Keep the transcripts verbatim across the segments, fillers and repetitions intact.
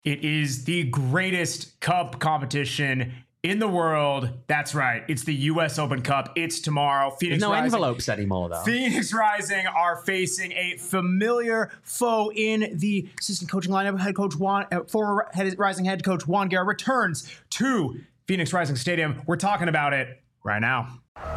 It is the greatest cup competition in the world. That's right. It's the U S Open Cup. It's tomorrow. Phoenix There's no Rising, envelopes anymore, though. Phoenix Rising are facing a familiar foe in the assistant coaching lineup. Head coach Juan, uh, former head, Rising head coach Juan Guerra returns to Phoenix Rising Stadium. We're talking about it right now.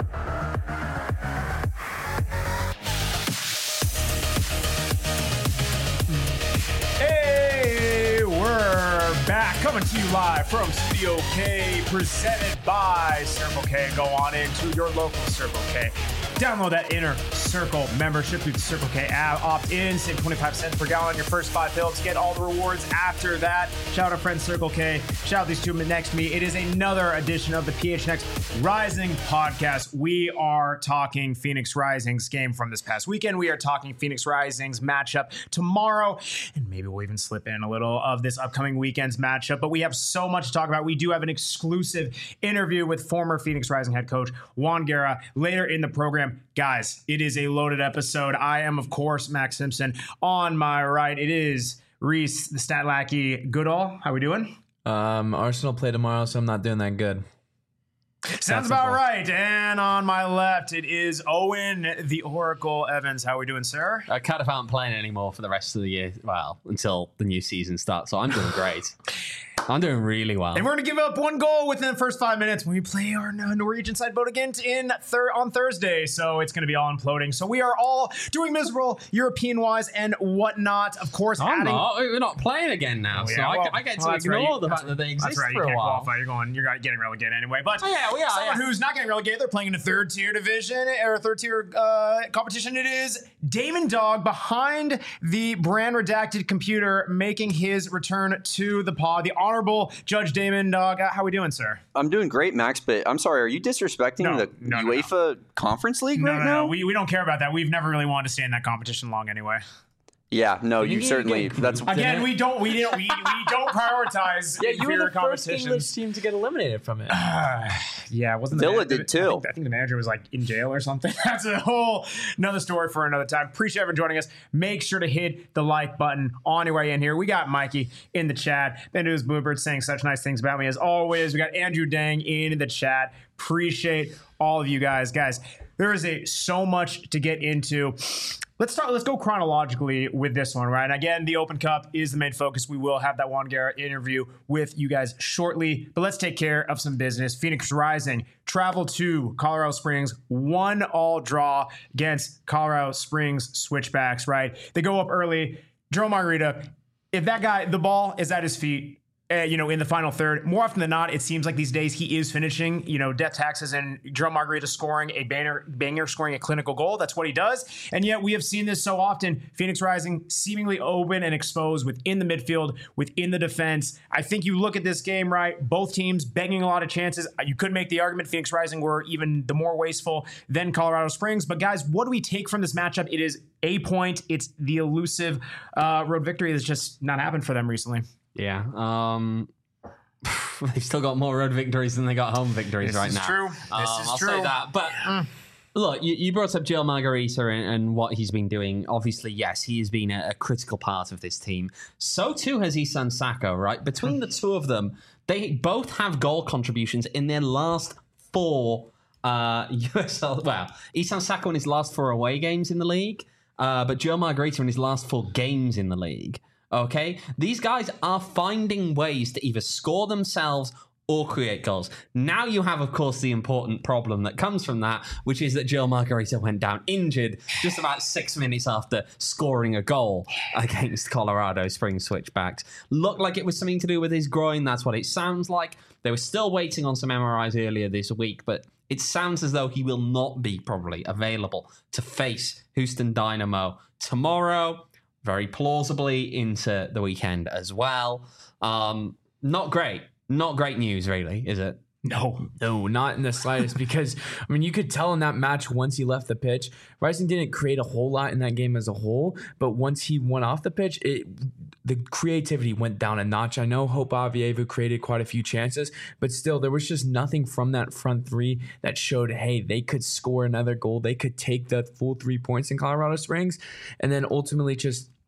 Back, coming to you live from Studio K, presented by Circle K. Go on into your local Circle K. Download that Inner Circle membership through the Circle K app. Opt in, save twenty-five cents per gallon on your first five fills. Get all the rewards after that. Shout out friends Circle K. Shout out these two next to me. It is another edition of the P H N X Rising podcast. We are talking Phoenix Rising's game from this past weekend. We are talking Phoenix Rising's matchup tomorrow. And maybe we'll even slip in a little of this upcoming weekend's matchup. But we have so much to talk about. We do have an exclusive interview with former Phoenix Rising head coach Juan Guerra later in the program. Guys, it is a loaded episode. I am, of course, Max Simpson. On my right, it is Reese, the stat lackey. Goodall, how we doing? Um, Arsenal play tomorrow, so I'm not doing that good. Sounds about right. And on my left, it is Owen, the Oracle Evans. How we doing, sir? I kind of aren't playing anymore for the rest of the year. Well, until the new season starts. So I'm doing great. I'm doing really well. And we're going to give up one goal within the first five minutes when we play our Norwegian side boat again in thir- on Thursday. So it's going to be all imploding. So we are all doing miserable European-wise and whatnot. Of course, I'm adding... not. We're not playing again now. Oh, so yeah, I, well, I get to well, ignore right. the that's, fact that they exist that's right. for You a can't while. qualify. You're going. You're getting relegated anyway. But oh, yeah, we are, someone yeah. who's not getting relegated, they're playing in a third-tier division or a third-tier uh, competition. It is Damon Dog behind the brand redacted computer making his return to the pod. The Honorable Judge Damon Dog. How we doing, sir? I'm doing great, Max, but I'm sorry, are you disrespecting No, the no, no, UEFA no. Conference League No, right no, now? no. We, we don't care about that. We've never really wanted to stay in that competition long anyway. Yeah, no, You you need to certainly. get- That's Again, we don't we don't we, we don't prioritize Yeah, you were inferior the first English competitions. team to get eliminated from it. Yeah, wasn't the Villa man- did I too. think, I think the manager was like in jail or something. That's a whole another story for another time. Appreciate everyone joining us. Make sure to hit the like button on your way in here. We got Mikey in the chat. Ben News Bluebird saying such nice things about me as always. We got Andrew Dang in the chat. Appreciate all of you guys. Guys, there is a so much to get into. Let's start. Let's go chronologically with this one, right? And again, the Open Cup is the main focus. We will have that Juan Guerra interview with you guys shortly, but let's take care of some business. Phoenix Rising travel to Colorado Springs, one all draw against Colorado Springs Switchbacks, right? They go up early. Joe Margarita, if that guy, the ball is at his feet, Uh, you know, in the final third, more often than not, it seems like these days he is finishing, you know, death taxes and Jerome Margarita scoring a banger, banger, scoring a clinical goal. That's what he does. And yet we have seen this so often. Phoenix Rising seemingly open and exposed within the midfield, within the defense. I think you look at this game, right? Both teams begging a lot of chances. You could make the argument Phoenix Rising were even the more wasteful than Colorado Springs. But guys, what do we take from this matchup? It is a point. It's the elusive uh, road victory that's just not happened for them recently. Yeah. Um, they've still got more road victories than they got home victories This right is now. true. This Um, is I'll true. say that. But look, you, you brought up Joe Margarita and, and what he's been doing. Obviously, yes, he has been a, a critical part of this team. So too has Isan Sako, right? Between the two of them, they both have goal contributions in their last four uh, U S L. Well, Isan Sako in his last four away games in the league, uh, but Joe Margarita in his last four games in the league. Okay, these guys are finding ways to either score themselves or create goals. Now you have, of course, the important problem that comes from that, which is that Joe Margarita went down injured just about six minutes after scoring a goal against Colorado Springs Switchbacks. Looked like it was something to do with his groin. That's what it sounds like. They were still waiting on some M R Is earlier this week, but it sounds as though he will not be probably available to face Houston Dynamo tomorrow. Very plausibly into the weekend as well. Um, not great. Not great news, really, is it? No. No, not in the slightest. Because, I mean, you could tell in that match once he left the pitch, Rising didn't create a whole lot in that game as a whole. But once he went off the pitch, it the creativity went down a notch. I know Hope Avievu created quite a few chances, but still, there was just nothing from that front three that showed, hey, they could score another goal. They could take the full three points in Colorado Springs. And then ultimately just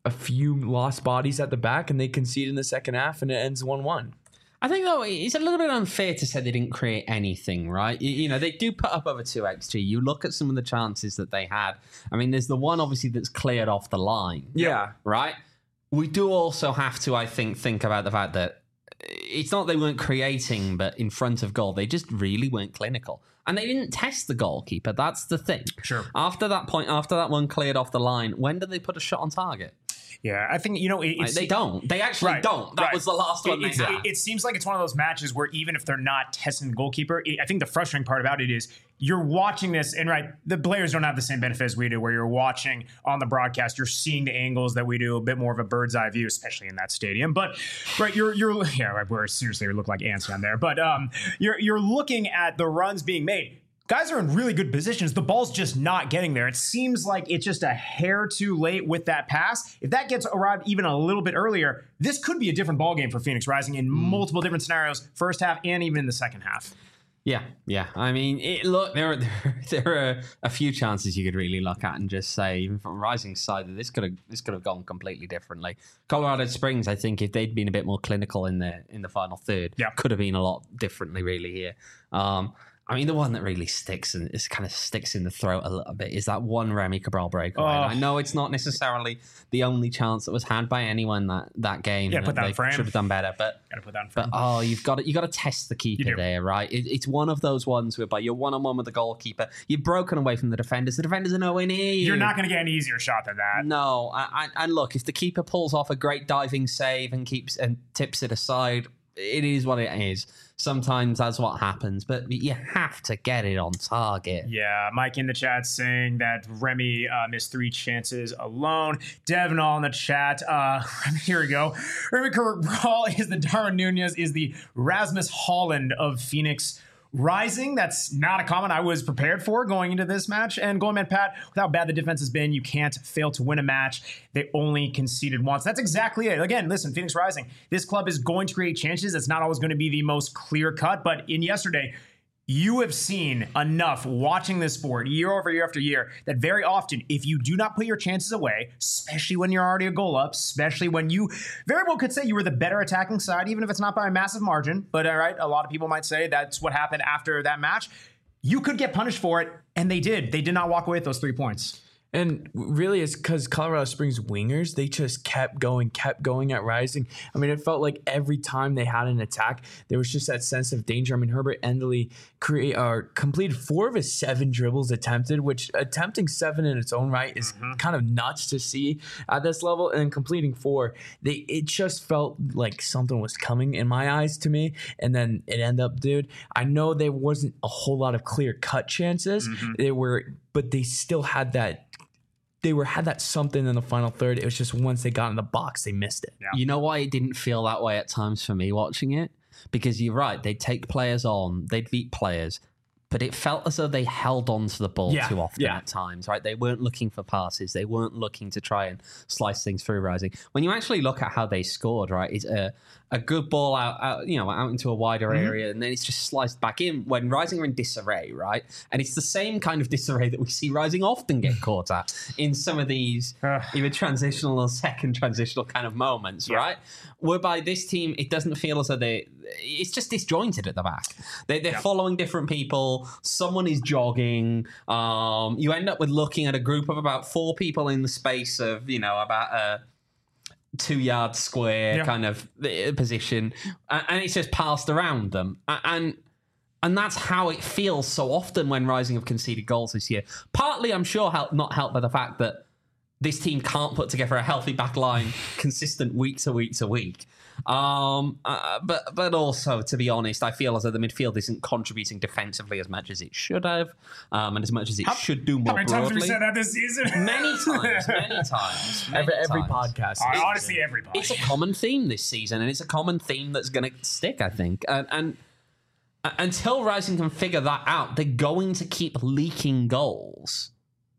a few lost bodies at the back, and they concede in the second half, and it ends one one. I think, though, it's a little bit unfair to say they didn't create anything, right? You, you know, they do put up over two X G. You look at some of the chances that they had. I mean, there's the one, obviously, that's cleared off the line. Yeah. Right? We do also have to, I think, think about the fact that it's not they weren't creating, but in front of goal, they just really weren't clinical. And they didn't test the goalkeeper. That's the thing. Sure. After that point, after that one cleared off the line, when did they put a shot on target? Yeah, I think, you know, it, Like, it's, they don't. They actually Right, don't. That right. was the last one it, they it's- had. it, it seems like it's one of those matches where even if they're not testing the goalkeeper, it, I think the frustrating part about it is you're watching this, and right, the players don't have the same benefit as we do, where you're watching on the broadcast, you're seeing the angles that we do, a bit more of a bird's eye view, especially in that stadium. But right, you're you're yeah, right, we're seriously we look like ants down there. But um, you're you're looking at the runs being made. Guys are in really good positions. The ball's just not getting there. It seems like it's just a hair too late with that pass. If that gets arrived even a little bit earlier, this could be a different ball game for Phoenix Rising in multiple different scenarios, first half and even in the second half. Yeah, yeah. I mean, it, look, there are, there, there are a few chances you could really look at and just say, even from Rising's side, that this could have this could have gone completely differently. Colorado Springs, I think, if they'd been a bit more clinical in the in the final third, Yeah. could have been a lot differently, really. Here, um, I mean, the one that really sticks and is kind of sticks in the throat a little bit is that one Remy Cabral breakaway. Oh. And I know it's not necessarily the only chance that was had by anyone that that game. Yeah, put that in they frame. should have done better, but. Gotta put that in But front. oh, you've got to you got to test the You keeper do. there, right? It, it's one of those ones whereby you're one on one with the goalkeeper. You're broken away from the defenders. The defenders are nowhere near you. You're not going to get an easier shot than that. No, I, I, and look, if the keeper pulls off a great diving save and keeps and tips it aside, it is what it is. Sometimes that's what happens, but you have to get it on target. Yeah, Mike in the chat saying that Remy uh, missed three chances alone. Devin all in the chat. Uh, here we go. Remy Cabral is the Darwin Nunez, is the Rasmus Holland of Phoenix Rising. That's not a comment I was prepared for going into this match. And going, man, Pat, with how bad the defense has been, you can't fail to win a match. They only conceded once. That's exactly it. Again, listen, Phoenix Rising, this club is going to create chances. It's not always going to be the most clear cut, but in yesterday, you have seen enough watching this sport year over year after year that very often, if you do not put your chances away, especially when you're already a goal up, especially when you very well could say you were the better attacking side, even if it's not by a massive margin, but all right, a lot of people might say that's what happened after that match, you could get punished for it, and they did. They did not walk away with those three points. And really, it's because Colorado Springs wingers, they just kept going, kept going at Rising. I mean, it felt like every time they had an attack, there was just that sense of danger. I mean, Herbert Endley create, uh, completed four of his seven dribbles attempted, which attempting seven in its own right is mm-hmm. kind of nuts to see at this level. And then completing four, they it just felt like something was coming in my eyes to me. And then it ended up, dude, I know there wasn't a whole lot of clear-cut chances. Mm-hmm. They were, but they still had that They were had that something in the final third. It was just once they got in the box, they missed it. Yeah. You know why it didn't feel that way at times for me watching it? Because you're right, they'd take players on, they'd beat players, but it felt as though they held on to the ball Yeah, too often yeah. at times, right? They weren't looking for passes. They weren't looking to try and slice things through Rising. When you actually look at how they scored, right, it's a, a good ball out, out, you know, out into a wider Mm-hmm. area, and then it's just sliced back in when Rising are in disarray, right? And it's the same kind of disarray that we see Rising often get caught at in some of these either transitional or second transitional kind of moments, Yeah. right? Whereby this team, it doesn't feel as though they, it's just disjointed at the back. They, they're Yeah. following different people. Someone is jogging. Um, you end up with looking at a group of about four people in the space of, you know, about a two yard square Yeah. kind of uh, position. And, and it's just passed around them. A- And, and that's how it feels so often when Rising have conceded goals this year. Partly, I'm sure, help, not helped by the fact that this team can't put together a healthy back line consistent week to week to week. Um, uh, but but also, to be honest, I feel as though the midfield isn't contributing defensively as much as it should have, um, and as much as it How- should do more How many times have broadly. we said that this season? Many times, many times. Many Every, every times. podcast. Uh, honestly, everybody. It's a common theme this season, and it's a common theme that's going to stick, I think. And, and uh, until Rising can figure that out, they're going to keep leaking goals.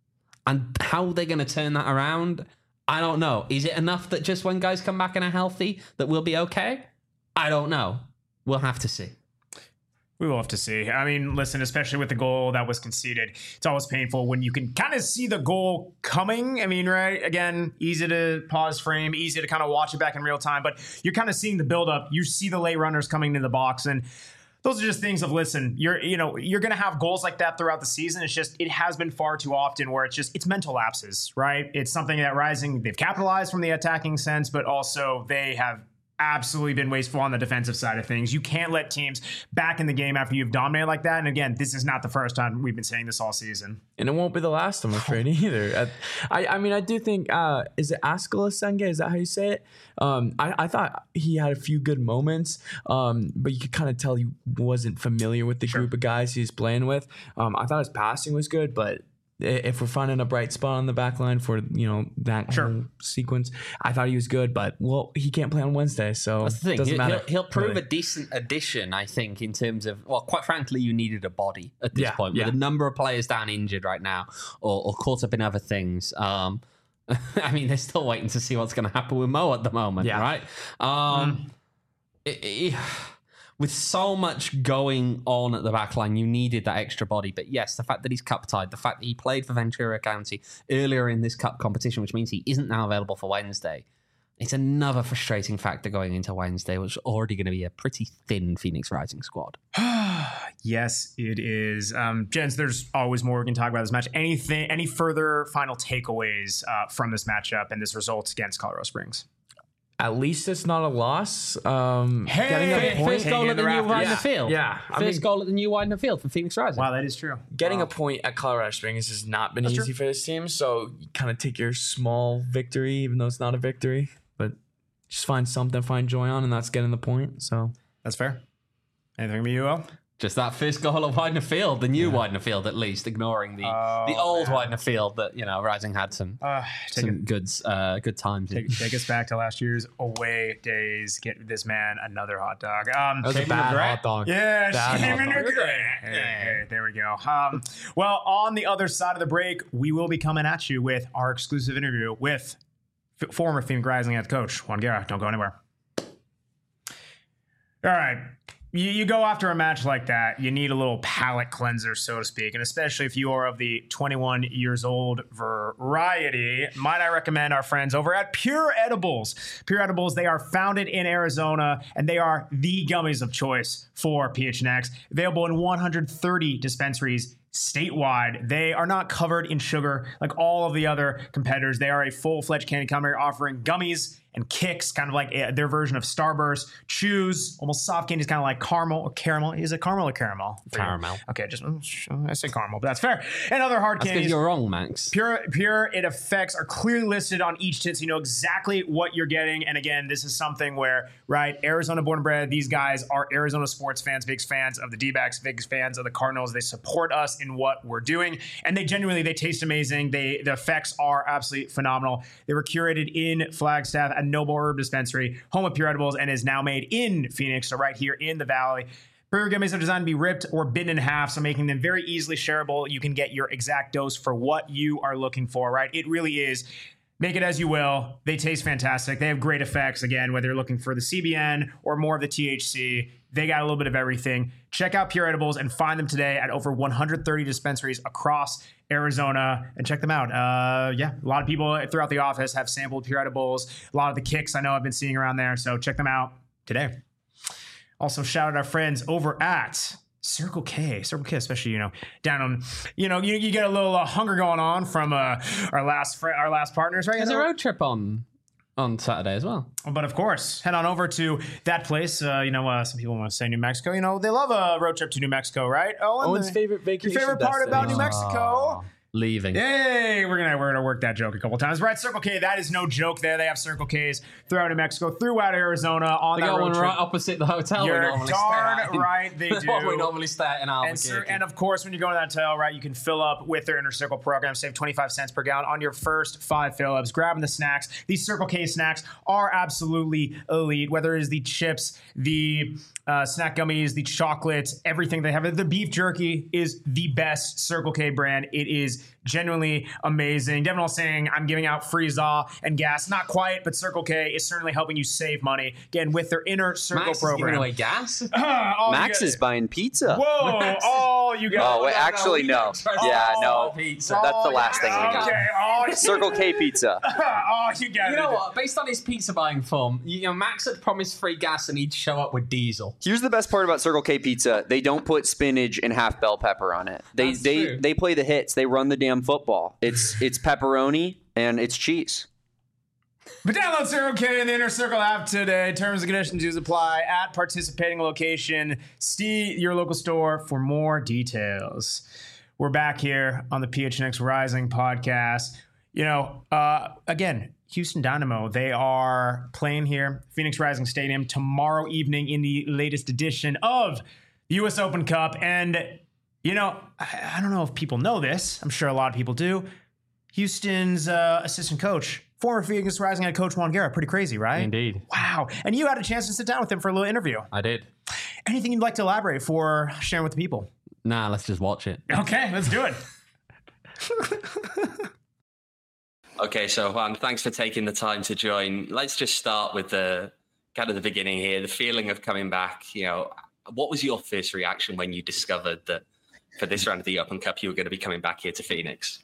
And how they're going to turn that around, I don't know. Is it enough that just when guys come back and are healthy, that we'll be okay? I don't know. We'll have to see. We will have to see. I mean, listen, especially with the goal that was conceded, it's always painful when you can kind of see the goal coming. I mean, right? Again, easy to pause frame, easy to kind of watch it back in real time, but you're kind of seeing the buildup. You see the late runners coming into the box, and those are just things of, listen, you're, you know, you're going to have goals like that throughout the season. It's just, it has been far too often where it's just, it's mental lapses, right? It's something that Rising, they've capitalized from the attacking sense, but also they have absolutely been wasteful on the defensive side of things. You can't let teams back in the game after you've dominated like that. And again, this is not the first time we've been saying this all season. And it won't be the last, I'm afraid, either. I, I mean, I do think, uh, is it Askala Senge? Is that how you say it? Um, I, I thought he had a few good moments, um, but you could kind of tell he wasn't familiar with the Sure. group of guys he was playing with. Um, I thought his passing was good, but if we're finding a bright spot on the back line for, you know, that Sure. whole sequence, I thought he was good, but, well, he can't play on Wednesday, so That's the thing. it doesn't He'll, matter. he'll, he'll prove really. a decent addition, I think, in terms of, well, quite frankly, you needed a body at this Yeah, point. yeah. With a number of players down injured right now or, or caught up in other things. Um, I mean, they're still waiting to see what's going to happen with Mo at the moment, Yeah. right? Um, it- it- with so much going on at the back line, you needed that extra body. But yes, the fact that he's cup tied, the fact that he played for Ventura County earlier in this cup competition, which means he isn't now available for Wednesday, it's another frustrating factor going into Wednesday, which is already going to be a pretty thin Phoenix Rising squad. Yes, it is. Um, Jens, there's always more we can talk about this match. Anything, any further final takeaways uh, from this matchup and this result against Colorado Springs? At least it's not a loss. Um, Hey! getting a Hey, point, First goal Taking at the the new Raptors. Widener Yeah, Field. yeah. I First mean- goal at the new Widener Field for Phoenix Rising. Wow, that is true. Getting Wow. a point at Colorado Springs has not been That's easy true. for this team. So you kind of take your small victory, even though it's not a victory, but just find something to find joy on, and that's getting the point. So That's fair. Anything from you, O? Just that first goal at Widener Field, the new Widener Field at least, ignoring the Oh, the old man. Widener Field that, you know, Rising had some Uh, take, some it, good uh, good times. in. take, take us back to last year's away days. Get this man another hot dog. Um, that was a Shane bad McGrath. hot dog. Yeah, Bad Shane hot dog. McGrath. Hey, hey, there we go. Um, well, on the other side of the break, we will be coming at you with our exclusive interview with f- former Phoenix Rising head coach Juan Guerra. Don't go anywhere. All right. You, you go after a match like that, you need a little palate cleanser, so to speak. And especially if you are of the twenty-one years old variety, might I recommend our friends over at Pure Edibles. Pure Edibles, they are founded in Arizona, and they are the gummies of choice for P H N X. Available in one hundred thirty dispensaries statewide. They are not covered in sugar like all of the other competitors. They are a full-fledged candy company offering gummies and kicks, kind of like uh, their version of Starburst. Chews, almost soft candies, kind of like caramel or caramel. Is it caramel or caramel? Caramel. Okay, just I say caramel, but that's fair. And other hard That's because candies. you're wrong, Max. Pure, pure, it effects are clearly listed on each tin, so you know exactly what you're getting. And again, this is something where, right, Arizona born and bred, these guys are Arizona sports fans, big fans of the D-backs, big fans of the Cardinals. They support us in what we're doing, and they genuinely, they taste amazing. They, the effects are absolutely phenomenal. They were curated in Flagstaff at Noble Herb Dispensary, home of Pure Edibles, and is now made in Phoenix, so right here in the Valley. Burger gummies are designed to be ripped or bitten in half, so making them very easily shareable. You can get your exact dose for what you are looking for, right? It really is. Make it as you will. They taste fantastic. They have great effects. Again, whether you're looking for the C B N or more of the T H C, they got a little bit of everything. Check out Pure Edibles and find them today at over one hundred thirty dispensaries across Arizona, and check them out. Uh, yeah, a lot of people throughout the office have sampled Pure Edibles. A lot of the kicks I know I've been seeing around there, so check them out today. Also, shout out our friends over at Circle K. Circle K, especially, you know, down on, you know, you, you get a little uh, hunger going on from uh, our last fr- our last partners, right? There's You a know? road trip on on Saturday as well. But of course, head on over to that place. Uh, you know, uh, some people want to say New Mexico. You know, they love a road trip to New Mexico, right? Oh, and Owen's the- favorite vacation. Your favorite part about New destination. Mexico? Leaving. Hey, we're gonna we're gonna work that joke a couple times. Right, Circle K, that is no joke there. They have Circle K's throughout New Mexico, throughout Arizona, on They that got road one trip. right opposite the hotel we You're normally darn stay at. right they That's what we do. normally stay at in And, sir, Albuquerque. and of course, when you go to that hotel, right, you can fill up with their Inner Circle program, save twenty-five cents per gallon on your first five fill-ups. Grabbing the snacks. These Circle K snacks are absolutely elite, whether it is the chips, the uh, snack gummies, the chocolates, everything they have. The beef jerky is the best Circle K brand. It is is genuinely amazing. Devin saying, I'm giving out free Z A and gas. Not quite, but Circle K is certainly helping you save money. Again, with their Inner Circle Max program. is giving away gas? Uh, Max guys, is buying pizza. Whoa, oh, you guys. Oh, wait, actually, no. Yeah, no. Pizza. That's the last thing we need. Okay, oh, Circle K pizza. oh, you guys. You know what? Based on his pizza buying form, you know, Max had promised free gas and he'd show up with diesel. Here's the best part about Circle K pizza. They don't put spinach and half bell pepper on it. They That's they true. they play the hits. They run the damn football. It's it's pepperoni and it's cheese. But download Circle K in the Inner Circle app today. Terms and conditions do apply at participating location. See your local store for more details. We're back here on the P H N X Rising podcast. You know, uh, again, Houston Dynamo, they are playing here, Phoenix Rising Stadium, tomorrow evening in the latest edition of the U S Open Cup. And, you know, I, I don't know if people know this. I'm sure a lot of people do. Houston's uh, assistant coach, former Phoenix Rising head coach Juan Guerra. Pretty crazy, right? Indeed. Wow. And you had a chance to sit down with him for a little interview. I did. Anything you'd like to elaborate for sharing with the people? Nah, let's just watch it. Okay, let's do it. Okay, so Juan, thanks for taking the time to join. Let's just start with the kind of the beginning here, the feeling of coming back. You know, what was your first reaction when you discovered that for this round of the Open Cup, you were going to be coming back here to Phoenix?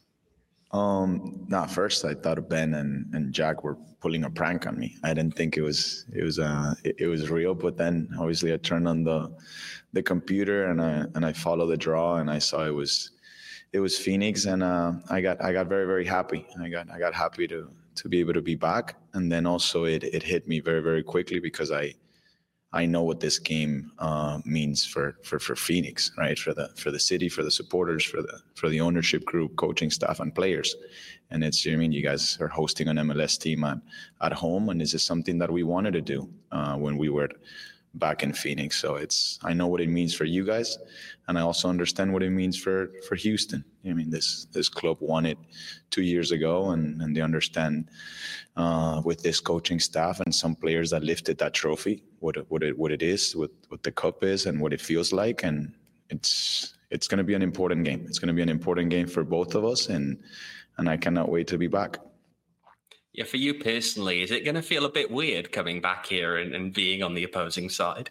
Um, nah, first I thought Ben and, and Jack were pulling a prank on me. I didn't think it was it was uh it, it was real. But then obviously I turned on the the computer and I and I followed the draw and I saw it was it was Phoenix and uh, I got I got very very happy. I got I got happy to to be able to be back. And then also it it hit me very very quickly because I. I know what this game uh, means for, for, for Phoenix, right? For the for the city, for the supporters, for the for the ownership group, coaching staff, and players. And it's, I mean, you guys are hosting an M L S team at, at home, and this is something that we wanted to do uh, when we were back in Phoenix. So it's, I know what it means for you guys, and I also understand what it means for for Houston. I mean, this this club won it two years ago, and and they understand uh, with this coaching staff and some players that lifted that trophy, what it, what it what it is, what what the cup is, and what it feels like, and it's it's going to be an important game. It's going to be an important game for both of us, and and I cannot wait to be back. Yeah, for you personally, is it going to feel a bit weird coming back here and, and being on the opposing side?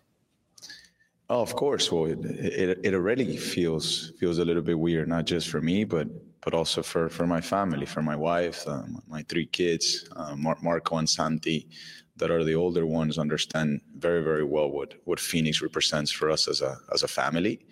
Oh, of course. Well, it, it it already feels feels a little bit weird, not just for me, but but also for, for my family, for my wife, um, my three kids, uh, Mar- Marco and Santi, that are the older ones, understand very very well what what Phoenix represents for us as a as a family.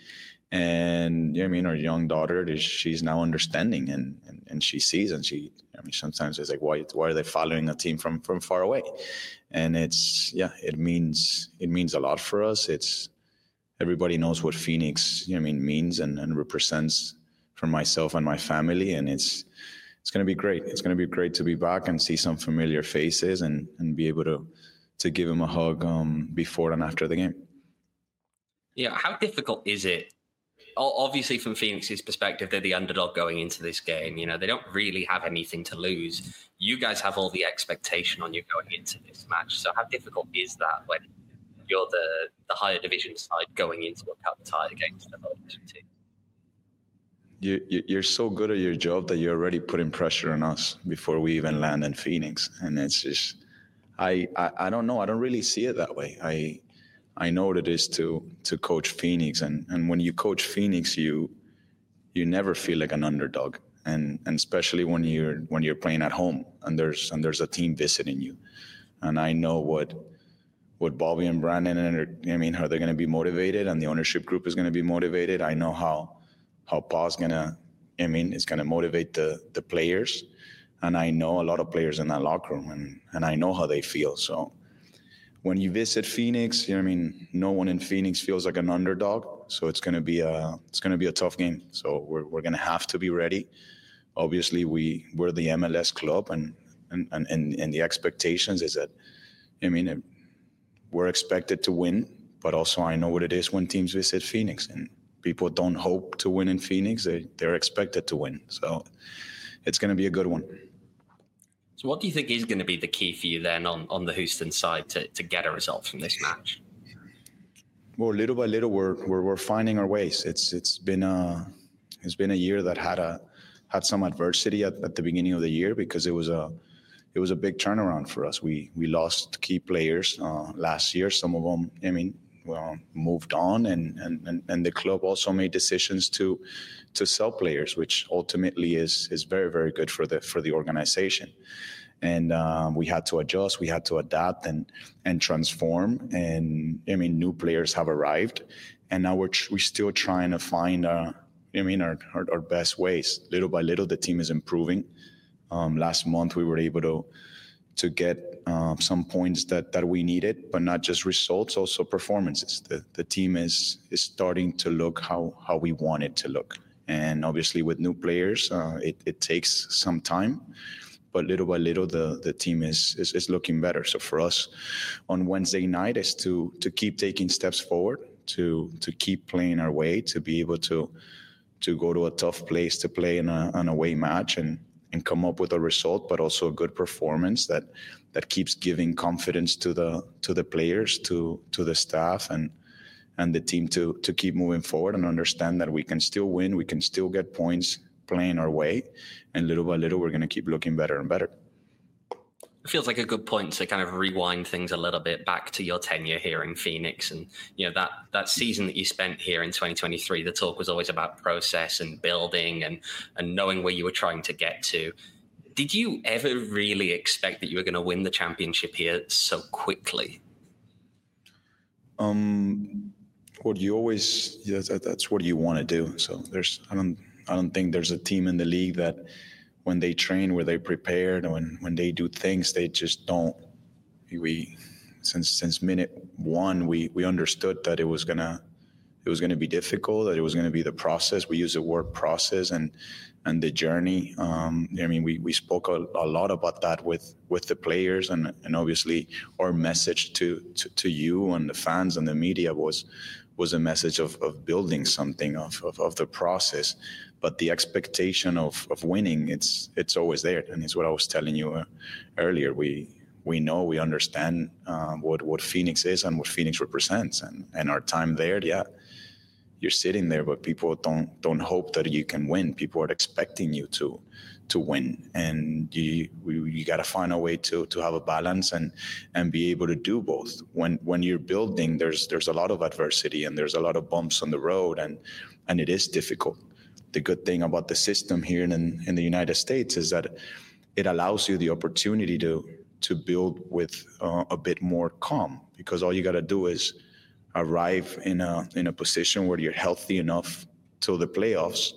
And yeah, I mean, our young daughter, is she's now understanding, and, and and she sees, and she, I mean, sometimes it's like, why why are they following a team from from far away? And it's, yeah, it means it means a lot for us. It's, everybody knows what Phoenix, I mean, means and, and represents for myself and my family, and it's it's going to be great. It's going to be great to be back and see some familiar faces and and be able to to give them a hug um, before and after the game. Yeah, how difficult is it? Obviously, from Phoenix's perspective, they're the underdog going into this game. You know, they don't really have anything to lose. You guys have all the expectation on you going into this match. So how difficult is that when you're the, the higher division side going into a cup tie against the lower division team? You, you, you're so good at your job that you're already putting pressure on us before we even land in Phoenix. And it's just, I, I, I don't know. I don't really see it that way. I I know what it is to to coach Phoenix, and, and when you coach Phoenix, you you never feel like an underdog, and and especially when you're when you're playing at home and there's and there's a team visiting you, and I know what what Bobby and Brandon and I mean, how they're going to be motivated, and the ownership group is going to be motivated. I know how how Paul's going to, I mean, it's going to motivate the the players, and I know a lot of players in that locker room, and and I know how they feel. So when you visit Phoenix, you know, I mean, no one in Phoenix feels like an underdog. So it's going to be a it's going to be a tough game. So we're we're going to have to be ready. Obviously, we we're the M L S club, and and and and the expectations is that, I mean, we're expected to win, but also I know what it is when teams visit Phoenix, and people don't hope to win in Phoenix. They they're expected to win. So it's going to be a good one. So what do you think is going to be the key for you then on, on the Houston side to, to get a result from this match? Well, little by little, we're we're, we're finding our ways. It's it's been a it's been a year that had a had some adversity at, at the beginning of the year because it was a it was a big turnaround for us. We we lost key players uh, last year. Some of them, I mean, well, moved on, and, and and the club also made decisions to to sell players, which ultimately is is very very good for the for the organization. And um, we had to adjust, we had to adapt and and transform. And I mean, new players have arrived, and now we're tr- we're still trying to find our, I mean, our, our our best ways. Little by little, the team is improving. Um, last month, we were able to to get uh, some points that, that we needed, but not just results, also performances. The the team is is starting to look how, how we want it to look. And obviously, with new players, uh, it, it takes some time, but little by little, the, the team is, is is looking better. So for us, on Wednesday night, is to to keep taking steps forward, to to keep playing our way, to be able to to go to a tough place to play in a, an away match and and come up with a result, but also a good performance that that keeps giving confidence to the to the players, to to the staff, and and the team to to keep moving forward and understand that we can still win, we can still get points playing our way, and little by little we're going to keep looking better and better. It feels like a good point to kind of rewind things a little bit back to your tenure here in Phoenix. And, you know, that, that season that you spent here in twenty twenty-three, the talk was always about process and building and, and knowing where you were trying to get to. Did you ever really expect that you were going to win the championship here so quickly? Um, what you always, yeah, that, that's what you want to do. So there's, I don't, I don't think there's a team in the league that, when they train, where they prepared, when when they do things, they just don't. We since since minute one, we we understood that it was gonna it was gonna be difficult, that it was gonna be the process. We use the word process and and the journey. Um, I mean, we we spoke a, a lot about that with with the players, and and obviously our message to to, to you and the fans and the media was was a message of, of building something, of, of of the process. But the expectation of, of winning, it's it's always there, and it's what I was telling you uh, earlier. We we know, we understand uh, what what Phoenix is and what Phoenix represents, and, and our time there. Yeah, you're sitting there, but people don't don't hope that you can win. People are expecting you to to win, and you we, you got to find a way to to have a balance and and be able to do both. When when you're building, there's there's a lot of adversity and there's a lot of bumps on the road, and and it is difficult. The good thing about the system here in, in the United States is that it allows you the opportunity to to build with uh, a bit more calm, because all you got to do is arrive in a in a position where you're healthy enough till the playoffs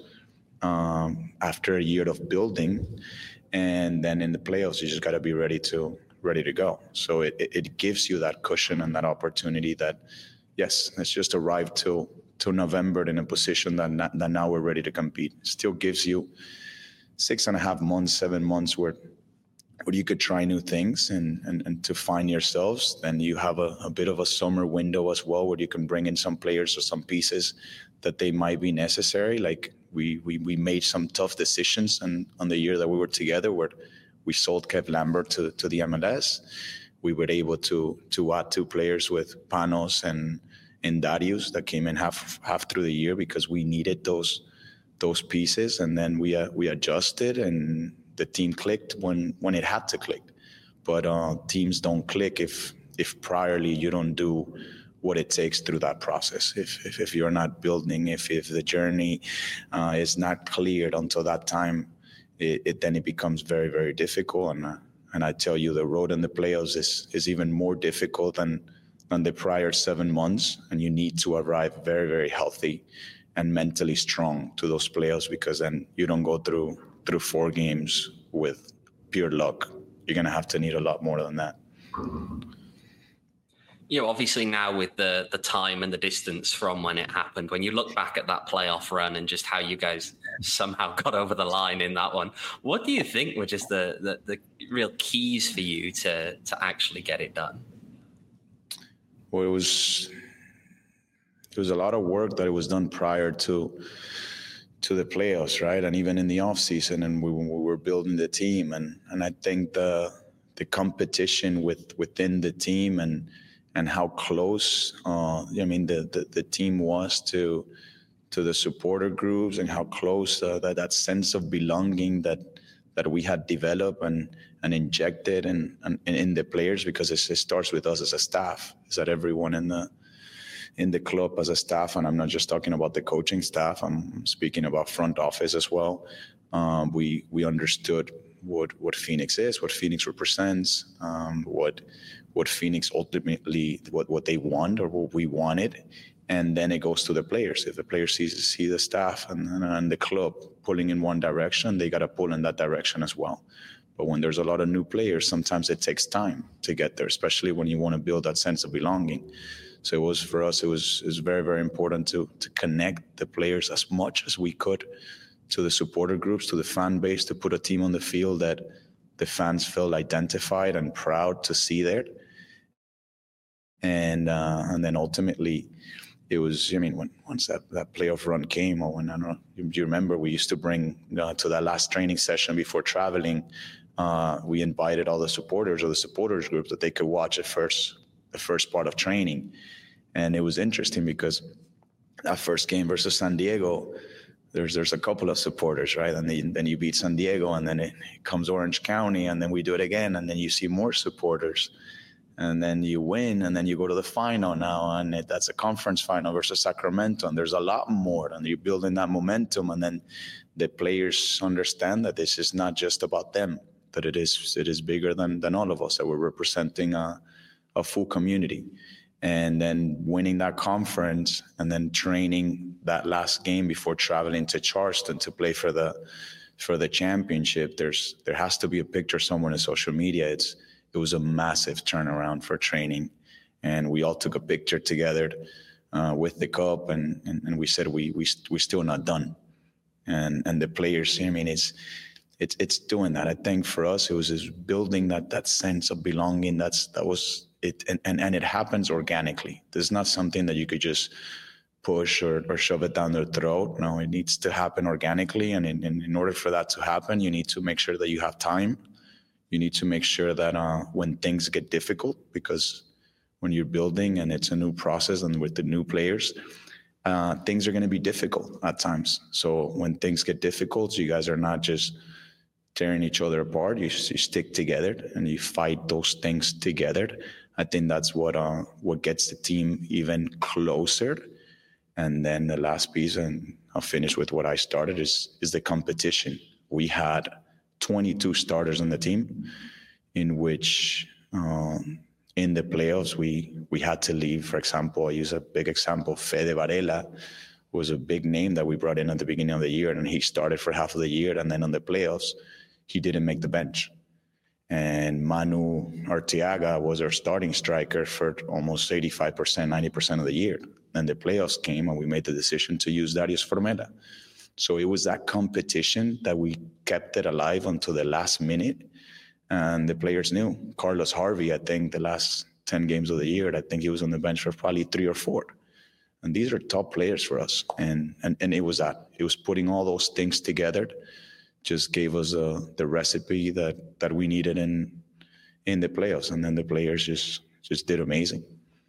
um, after a year of building, and then in the playoffs you just got to be ready to ready to go. So it, it gives you that cushion and that opportunity that, yes, let's just arrive till to November in a position that, not, that now we're ready to compete. Still gives you six and a half months, seven months where where you could try new things and, and, and to find yourselves. Then you have a, a bit of a summer window as well, where you can bring in some players or some pieces that they might be necessary. Like we we, we made some tough decisions and on the year that we were together, where we sold Kev Lambert to, to the M L S. We were able to to add two players with Panos and and Darius that came in half half through the year because we needed those those pieces, and then we uh, we adjusted and the team clicked when when it had to click. But uh, teams don't click if if priorly you don't do what it takes through that process. If if, if you're not building, if if the journey uh, is not cleared until that time, it, it then it becomes very very difficult. And uh, and I tell you, the road in the playoffs is is even more difficult than. than the prior seven months, and you need to arrive very, very healthy and mentally strong to those playoffs, because then you don't go through through four games with pure luck. You're going to have to need a lot more than that. You know, obviously now with the the time and the distance from when it happened, when you look back at that playoff run and just how you guys somehow got over the line in that one, what do you think were just the the, the real keys for you to to actually get it done? Well, it was it was a lot of work that it was done prior to to the playoffs, right? And even in the off season, and we, we were building the team, and and I think the the competition with within the team and and how close uh, I mean the, the the team was to to the supporter groups and how close uh, that, that sense of belonging that that we had developed and and injected in, in, in the players, because it, it starts with us as a staff. Is that everyone in the in the club as a staff, and I'm not just talking about the coaching staff, I'm speaking about front office as well. Um, we we understood what what Phoenix is, what Phoenix represents, um, what what Phoenix ultimately, what, what they want or what we wanted. And then it goes to the players. If the players see, see the staff and, and, and the club pulling in one direction, they got to pull in that direction as well. But when there's a lot of new players, sometimes it takes time to get there, especially when you want to build that sense of belonging. So it was, for us, it was, it was very, very important to, to connect the players as much as we could to the supporter groups, to the fan base, to put a team on the field that the fans felt identified and proud to see there. And uh, and then ultimately, it was, I mean, when once that, that playoff run came, or when, I don't know, do you remember, we used to bring uh, to that last training session before traveling, uh, we invited all the supporters or the supporters group that they could watch the first, the first part of training. And it was interesting because that first game versus San Diego, there's there's a couple of supporters, right? And then, then you beat San Diego, and then it, it comes Orange County, and then we do it again, and then you see more supporters. And then you win, and then you go to the final now, and it, that's a conference final versus Sacramento, and there's a lot more, and you're building that momentum, and then the players understand that this is not just about them, that it is it is bigger than than all of us, that we're representing a, a full community. And then winning that conference, and then training that last game before traveling to Charleston to play for the for the championship. There's there has to be a picture somewhere in social media. It's It was a massive turnaround for training, and we all took a picture together uh, with the cup, and, and, and we said we we we're still not done, and and the players. I mean, it's it's it's doing that. I think for us, it was just building that that sense of belonging. That's that was it, and and, and it happens organically. There's not something that you could just push or, or shove it down their throat. No, it needs to happen organically, and in, in, in order for that to happen, you need to make sure that you have time. You need to make sure that uh, when things get difficult, because when you're building and it's a new process and with the new players, uh, things are going to be difficult at times. So when things get difficult, you guys are not just tearing each other apart. You, you stick together and you fight those things together. I think that's what uh, what gets the team even closer. And then the last piece, and I'll finish with what I started, is is the competition. We had twenty-two starters on the team, in which um, in the playoffs we we had to leave. For example, I use a big example. Fede Varela was a big name that we brought in at the beginning of the year, and he started for half of the year, and then on the playoffs, he didn't make the bench. And Manu Arteaga was our starting striker for almost eighty-five percent, ninety percent of the year. Then the playoffs came, and we made the decision to use Darius Formella. So it was that competition that we kept it alive until the last minute. And the players knew. Carlos Harvey, I think the last ten games of the year, I think he was on the bench for probably three or four. And these are top players for us. And and, and it was that. It was putting all those things together, just gave us uh, the recipe that, that we needed in in the playoffs. And then the players just, just did amazing.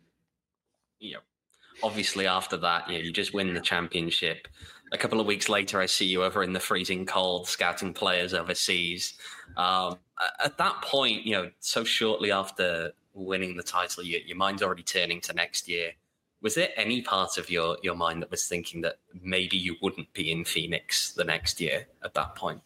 Yeah. Obviously, after that, you know, you just win the championship. A couple of weeks later, I see you over in the freezing cold scouting players overseas. Um, at that point, you know, so shortly after winning the title, you, your mind's already turning to next year. Was there any part of your, your mind that was thinking that maybe you wouldn't be in Phoenix the next year at that point?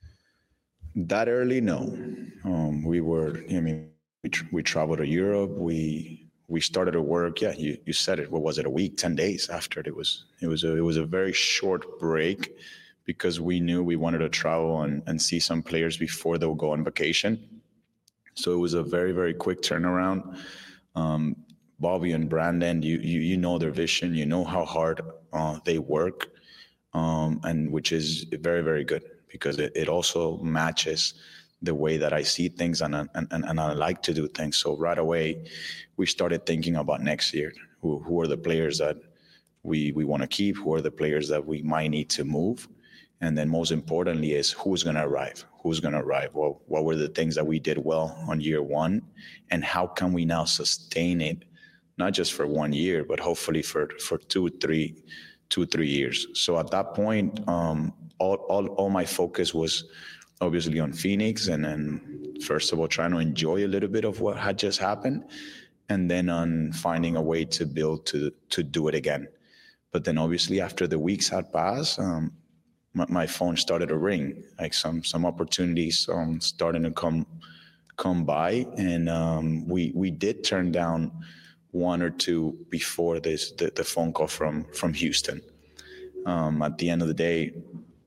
That early, no. Um, we were, I mean, we, tra- we traveled to Europe. We we started to work. Yeah, you, you said it. What was it? A week, ten days after it. It was it was a, it was a very short break, because we knew we wanted to travel and, and see some players before they would go on vacation. So it was a very, very quick turnaround. Um, Bobby and Brandon, you, you you know their vision. You know how hard uh, they work, um, and which is very, very good, because it, it also matches the way that I see things and, and and and I like to do things. So right away, we started thinking about next year. Who who are the players that we we want to keep? Who are the players that we might need to move? And then most importantly is who's going to arrive? Who's going to arrive? Well, what were the things that we did well on year one? And how can we now sustain it, not just for one year, but hopefully for, for two, three, two, three years. So at that point, um, all, all, all my focus was obviously on Phoenix, and then first of all, trying to enjoy a little bit of what had just happened, and then on finding a way to build to to do it again. But then obviously after the weeks had passed, um, my, my phone started to ring, like some some opportunities um, starting to come come by, and um, we we did turn down one or two before this the, the phone call from from Houston. Um, at the end of the day,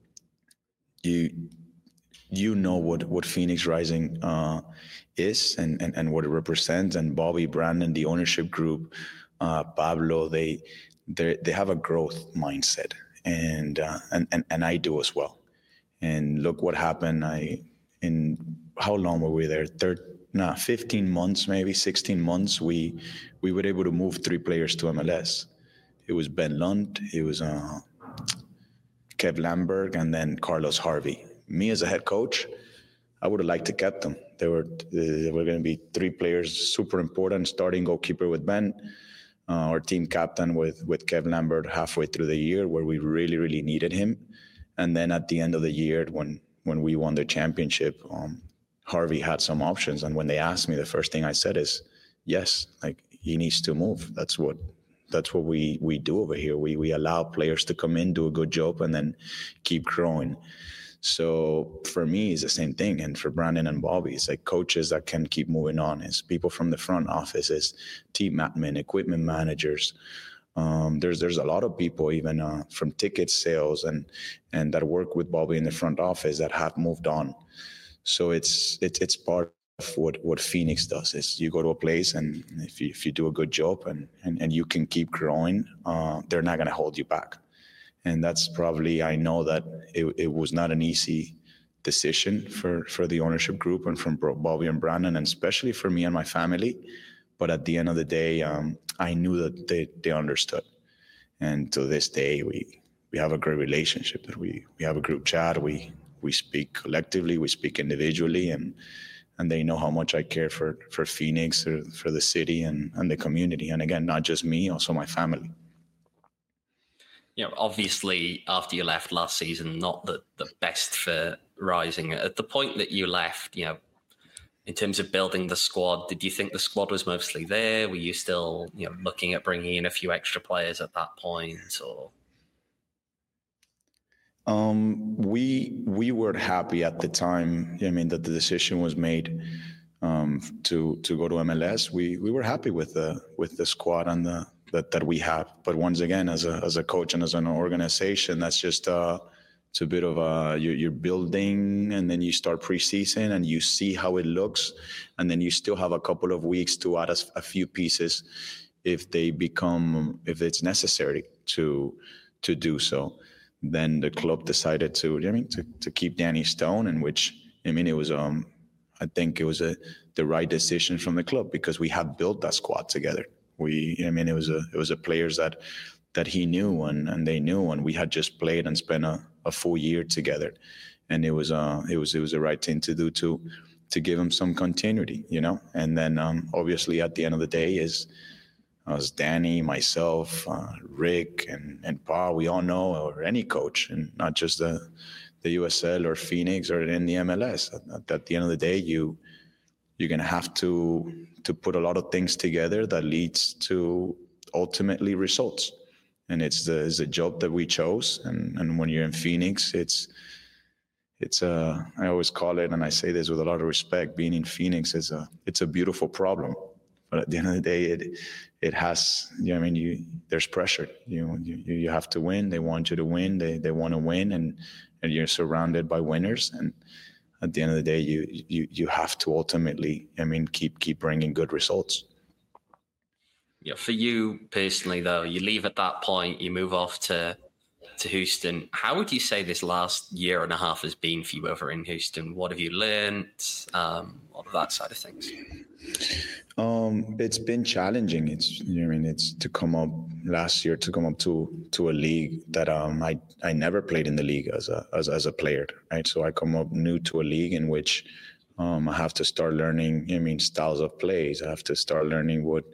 you you know what what Phoenix Rising uh, is and, and and what it represents, and Bobby, Brandon, the ownership group, uh, Pablo, they they they have a growth mindset, and uh, and and and I do as well. And look what happened. I in how long were we there? Third, nah, fifteen months, maybe sixteen months. We we were able to move three players to M L S. It was Ben Lund, it was uh, Kev Lamberg, and then Carlos Harvey. Me as a head coach, I would have liked to kept them. There were there were going to be three players super important: starting goalkeeper with Ben, uh, our team captain with with Kev Lambert halfway through the year, where we really really needed him, and then at the end of the year when when we won the championship, um, Harvey had some options, and when they asked me, the first thing I said is, yes, like he needs to move. That's what that's what we we do over here. We we allow players to come in, do a good job, and then keep growing. So for me, it's the same thing. And for Brandon and Bobby, it's like coaches that can keep moving on. It's people from the front office, it's team admin, equipment managers. Um, there's there's a lot of people even uh, from ticket sales and and that work with Bobby in the front office that have moved on. So it's it's it's part of what, what Phoenix does. Is you go to a place, and if you if you do a good job and and, and you can keep growing, uh, they're not going to hold you back. And that's probably, I know that it, it was not an easy decision for, for the ownership group and from Bobby and Brandon, and especially for me and my family. But at the end of the day, um, I knew that they, they understood. And to this day, we we have a great relationship. That we we have a group chat. We we speak collectively. We speak individually, and and they know how much I care for for Phoenix, or for the city and, and the community. And again, not just me, also my family. You know, obviously, after you left last season, not the, the best for Rising. At the point that you left, you know, in terms of building the squad, did you think the squad was mostly there? Were you still, you know, looking at bringing in a few extra players at that point, or? Um, we we were happy at the time. I mean, that the decision was made um, to to go to M L S. We we were happy with the with the squad and the. that that we have. But once again, as a as a coach and as an organization, that's just uh it's a bit of a you're, you're building, and then you start preseason and you see how it looks, and then you still have a couple of weeks to add a, a few pieces if they become if it's necessary to to do so. Then the club decided to I mean to, to keep Danny Stone, in which I mean it was um I think it was a the right decision from the club, because we have built that squad together. We, I mean, it was a it was a players that that he knew and, and they knew, and we had just played and spent a, a full year together, and it was uh it was it was the right thing to do to to give him some continuity, you know. And then um, obviously at the end of the day is as Danny, myself, uh, Rick, and and Pa, we all know, or any coach, and not just the the U S L or Phoenix or in the M L S. At, at the end of the day, you. You're going to have to to put a lot of things together that leads to ultimately results. And it's the, it's the job that we chose. And, and when you're in Phoenix, it's, it's a, I always call it, and I say this with a lot of respect, being in Phoenix is a, it's a beautiful problem. But at the end of the day, it, it has, you know, I mean, you, there's pressure. You, you, you have to win. They want you to win. They, they want to win, and, and you're surrounded by winners. And at the end of the day, you, you you have to ultimately, I mean, keep keep bringing good results. Yeah, for you personally, though, you leave at that point, you move off to to Houston. How would you say this last year and a half has been for you over in Houston? What have you learned? Um, all of that side of things. Um, it's been challenging. It's, you know, I mean, it's to come up last year to come up to to a league that um I, I never played in the league as a as as a player, right? So I come up new to a league in which. Um, I have to start learning, I mean, styles of plays. I have to start learning what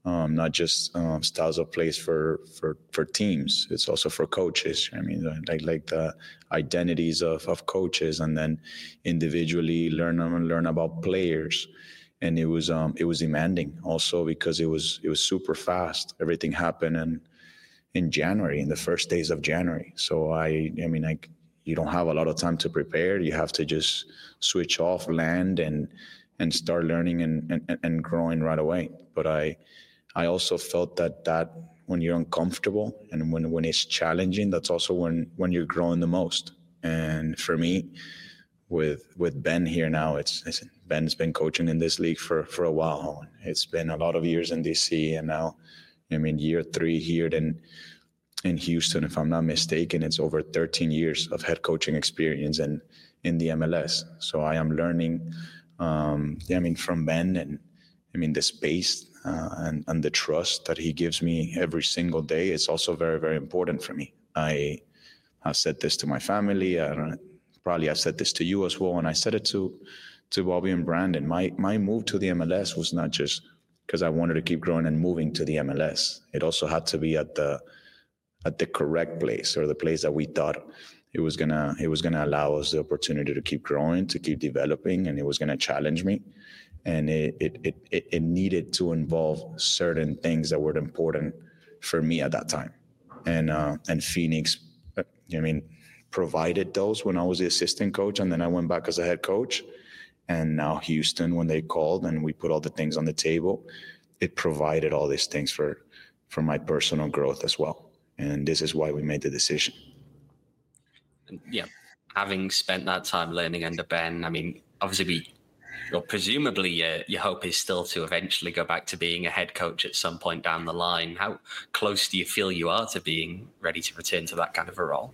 Um, not just um, styles of plays for, for for teams. It's also for coaches. I mean, like like the identities of, of coaches, and then individually learn learn about players. And it was um, it was demanding also because it was it was super fast. Everything happened in in January, in the first days of January. So I I mean, like you don't have a lot of time to prepare. You have to just switch off, land, and and start learning and and, and growing right away. But I. I also felt that that when you're uncomfortable and when, when it's challenging, that's also when, when you're growing the most. And for me, with with Ben here now, it's, it's Ben's been coaching in this league for, for a while. It's been a lot of years in D C, and now, I mean, year three here in, in Houston, if I'm not mistaken, it's over thirteen years of head coaching experience in, in the M L S. So I am learning, um, I mean, from Ben, and I mean, the space uh, and, and the trust that he gives me every single day is also very, very important for me. I have said this to my family. I don't, probably I said this to you as well. And I said it to, to Bobby and Brandon. My, my move to the M L S was not just because I wanted to keep growing and moving to the M L S. It also had to be at the, at the correct place, or the place that we thought it was gonna, it was gonna allow us the opportunity to keep growing, to keep developing, and it was gonna challenge me. And it, it it it needed to involve certain things that were important for me at that time. And uh, and Phoenix, I mean, provided those when I was the assistant coach, and then I went back as a head coach. And now Houston, when they called and we put all the things on the table, it provided all these things for for my personal growth as well. And this is why we made the decision. Yeah, having spent that time learning under Ben, I mean, obviously we. Well, presumably uh, your hope is still to eventually go back to being a head coach at some point down the line. How close do you feel you are to being ready to return to that kind of a role?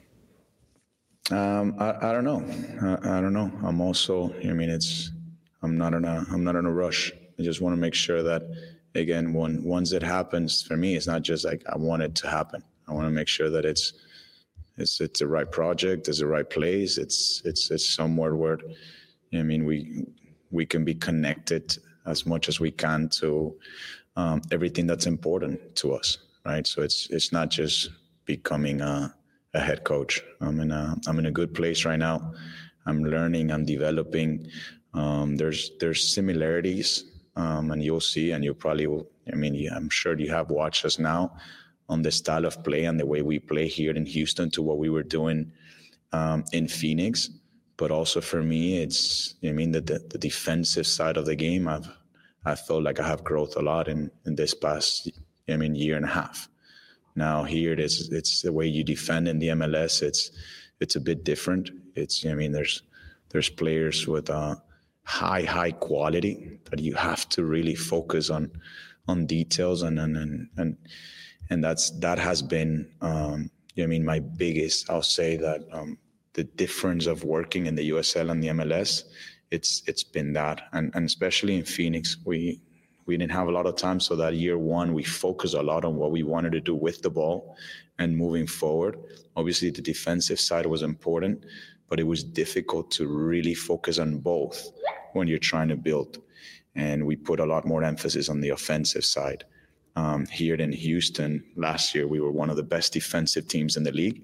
Um, I, I don't know. I, I don't know. I'm also, I mean, it's, I'm not in a, I'm not in a rush. I just want to make sure that, again, when, once it happens for me, it's not just like I want it to happen. I want to make sure that it's, it's, it's the right project, it's the right place. It's, it's, it's somewhere where, I mean, we, we can be connected as much as we can to um, everything that's important to us, right? So it's it's not just becoming a, a head coach. I'm in a I'm in a good place right now. I'm learning, I'm developing. Um, there's there's similarities, um, and you'll see, and you'll probably will. I mean, yeah, I'm sure you have watched us now on the style of play and the way we play here in Houston to what we were doing um, in Phoenix. But also for me, it's, I mean, the, the, the defensive side of the game, I've, I felt like I have growth a lot in, in this past, I mean, year and a half. Now here it is, it's the way you defend in the M L S. It's, it's a bit different. It's, I mean, there's, there's players with uh, high, high quality that you have to really focus on, on details. And, and, and, and, and that's, that has been, um, I mean, my biggest, I'll say that, um, the difference of working in the U S L and the M L S, it's it's been that, and and especially in Phoenix, we we didn't have a lot of time. So that year one, we focused a lot on what we wanted to do with the ball and moving forward. Obviously, the defensive side was important, but it was difficult to really focus on both when you're trying to build. And we put a lot more emphasis on the offensive side. Um, here in Houston last year, we were one of the best defensive teams in the league.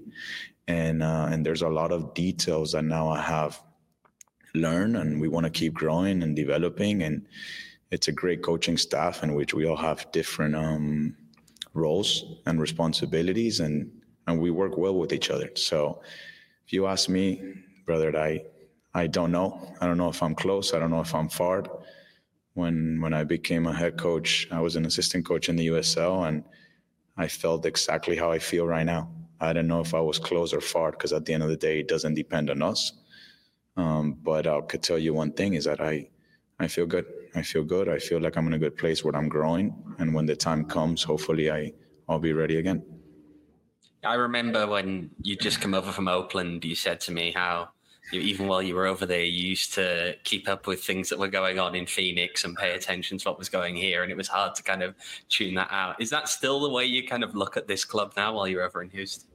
And uh, and there's a lot of details that now I have learned, and we want to keep growing and developing. And it's a great coaching staff in which we all have different um, roles and responsibilities, and, and we work well with each other. So if you ask me, brother, I I don't know. I don't know if I'm close. I don't know if I'm far. When when I became a head coach, I was an assistant coach in the U S L, and I felt exactly how I feel right now. I don't know if I was close or far, because at the end of the day, it doesn't depend on us. Um, but I could tell you one thing is that I, I feel good. I feel good. I feel like I'm in a good place where I'm growing. And when the time comes, hopefully I, I'll be ready again. I remember when you just come over from Oakland, you said to me how you, even while you were over there, you used to keep up with things that were going on in Phoenix and pay attention to what was going here. And it was hard to kind of tune that out. Is that still the way you kind of look at this club now while you're over in Houston?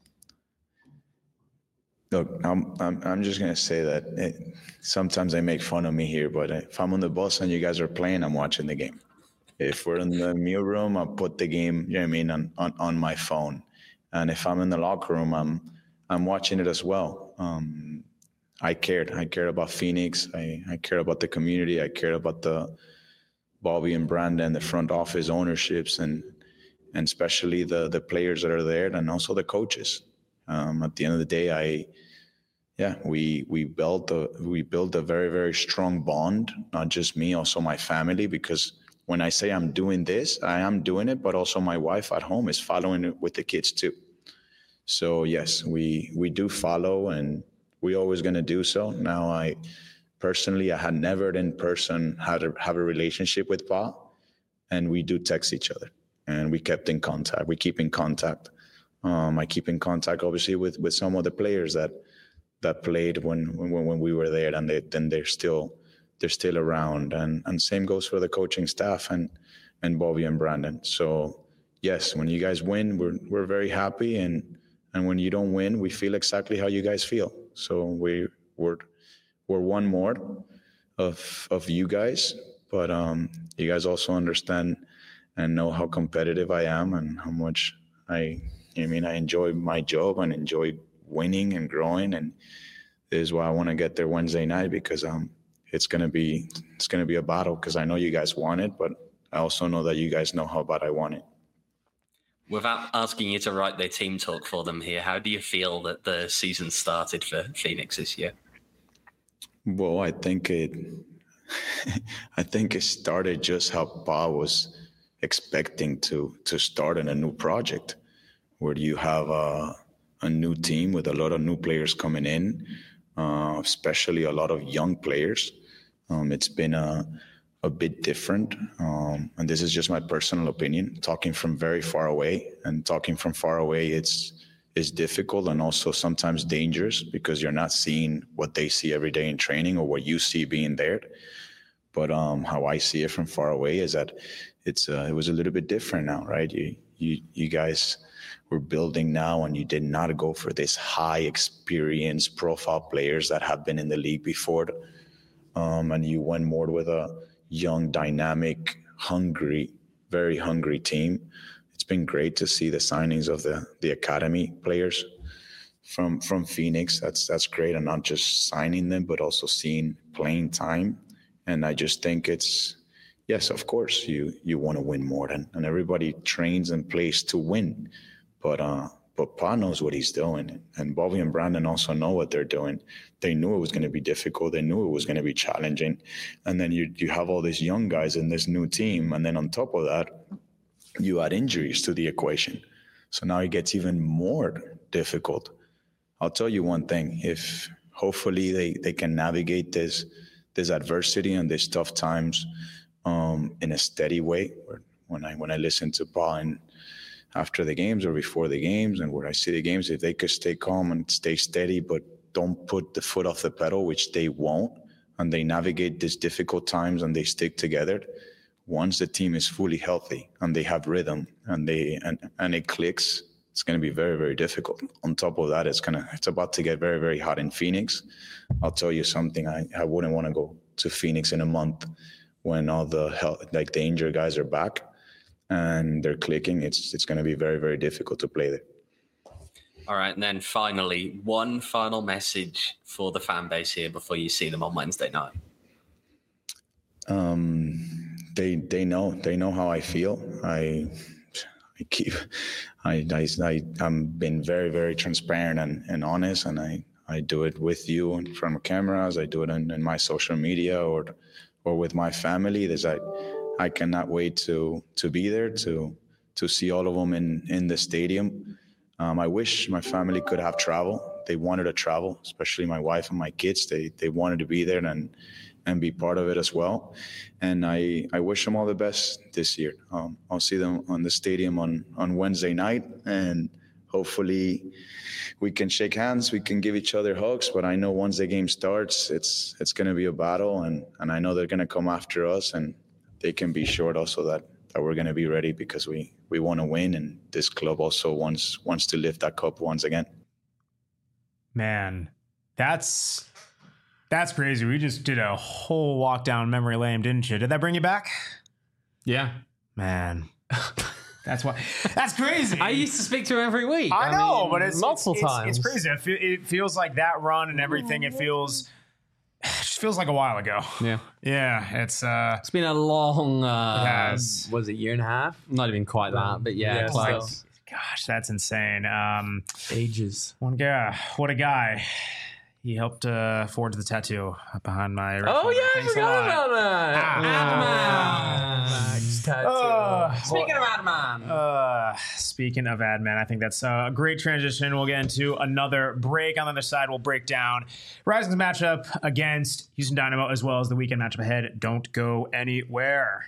Look, I'm, I'm, I'm just going to say that it, sometimes they make fun of me here, but if I'm on the bus and you guys are playing, I'm watching the game. If we're in the meal room, I'll put the game, you know what I mean, on, on, on my phone. And if I'm in the locker room, I'm I'm watching it as well. Um, I cared. I cared about Phoenix. I, I cared about the community. I cared about the Bobby and Brandon, the front office ownerships, and and especially the the players that are there, and also the coaches. Um, at the end of the day, I yeah, we we built a we built a very very strong bond. Not just me, also my family. Because when I say I'm doing this, I am doing it, but also my wife at home is following it with the kids too. So yes, we we do follow, and we're always going to do so. Now, I personally, I had never in person had a, have a relationship with Pa, and we do text each other, and we kept in contact. We keep in contact. Um, I keep in contact, obviously, with with some of the players that that played when when, when we were there, and they, then they're still they're still around. And and same goes for the coaching staff and and Bobby and Brandon. So yes, when you guys win, we're we're very happy, and and when you don't win, we feel exactly how you guys feel. So we we're we're one more of of you guys, but um, you guys also understand and know how competitive I am and how much I I mean I enjoy my job and enjoy winning and growing, and this is why I want to get there Wednesday night, because um it's gonna be it's gonna be a battle, because I know you guys want it, but I also know that you guys know how bad I want it. Without asking you to write their team talk for them here, how do you feel that the season started for Phoenix this year? Well, I think it I think it started just how Pa was expecting to to start in a new project, where you have a, a new team with a lot of new players coming in, uh, especially a lot of young players. Um, it's been a a bit different. Um, and this is just my personal opinion, talking from very far away. And talking from far away, it's is difficult and also sometimes dangerous, because you're not seeing what they see every day in training or what you see being there. But um, how I see it from far away is that it's uh, it was a little bit different now, right? You you you guys were building now, and you did not go for this high experience profile players that have been in the league before, um, and you went more with a young, dynamic, hungry, very hungry team. It's been great to see the signings of the the academy players from from Phoenix. That's that's great, and not just signing them, but also seeing playing time. And I just think it's yes, of course, you you want to win more, and, and everybody trains and plays to win. But uh, but Pa knows what he's doing, and Bobby and Brandon also know what they're doing. They knew it was going to be difficult. They knew it was going to be challenging. And then you you have all these young guys in this new team, and then on top of that, you add injuries to the equation. So now it gets even more difficult. I'll tell you one thing: if hopefully they, they can navigate this this adversity and these tough times um, in a steady way. When I when I listen to Pa and after the games or before the games, and where I see the games, if they could stay calm and stay steady, but don't put the foot off the pedal, which they won't, and they navigate these difficult times and they stick together. Once the team is fully healthy and they have rhythm and they and, and it clicks, it's going to be very, very difficult. On top of that, it's gonna it's about to get very, very hot in Phoenix. I'll tell you something. I, I wouldn't want to go to Phoenix in a month when all the health, like the injured guys are back and they're clicking. It's it's going to be very, very difficult to play there. All right, and then finally, one final message for the fan base here before you see them on Wednesday night. Um, they they know they know how I feel. I I keep I I, I I'm been very very transparent and, and honest, and I, I do it with you in front of cameras. I do it in, in my social media or or with my family. There's I I cannot wait to to be there to to see all of them in in the stadium. Um, I wish my family could have traveled. They wanted to travel, especially my wife and my kids. They they wanted to be there and and be part of it as well. And I, I wish them all the best this year. Um, I'll see them on the stadium on, on Wednesday night, and hopefully we can shake hands, we can give each other hugs. But I know once the game starts, it's it's going to be a battle, and, and I know they're going to come after us, and they can be sure also that, that we're going to be ready because we, we want to win, and this club also wants wants to lift that cup once again. Man, that's... That's crazy. We just did a whole walk down memory lane, didn't you? Did that bring you back? Yeah. Man. That's why. That's crazy. I used to speak to him every week. I, I know, mean, but it's multiple it's, times. It's, it's crazy. It, fe- it feels like that run and everything. It feels, it just feels like a while ago. Yeah. Yeah, it's uh, It's been a long. Uh, it has. Was it a year and a half? Not even quite that, but yeah, Yeah, close. Gosh, that's insane. Um, Ages. one guy, what a guy. He helped uh, forge the tattoo behind my. right Oh shoulder. yeah, I Thanks a forgot lot. about that. Ah, Max tattoo. Uh, Speaking of Adman. Uh, speaking of admin, I think that's a great transition. We'll get into another break. On the other side, we'll break down Rising's matchup against Houston Dynamo as well as the weekend matchup ahead. Don't go anywhere.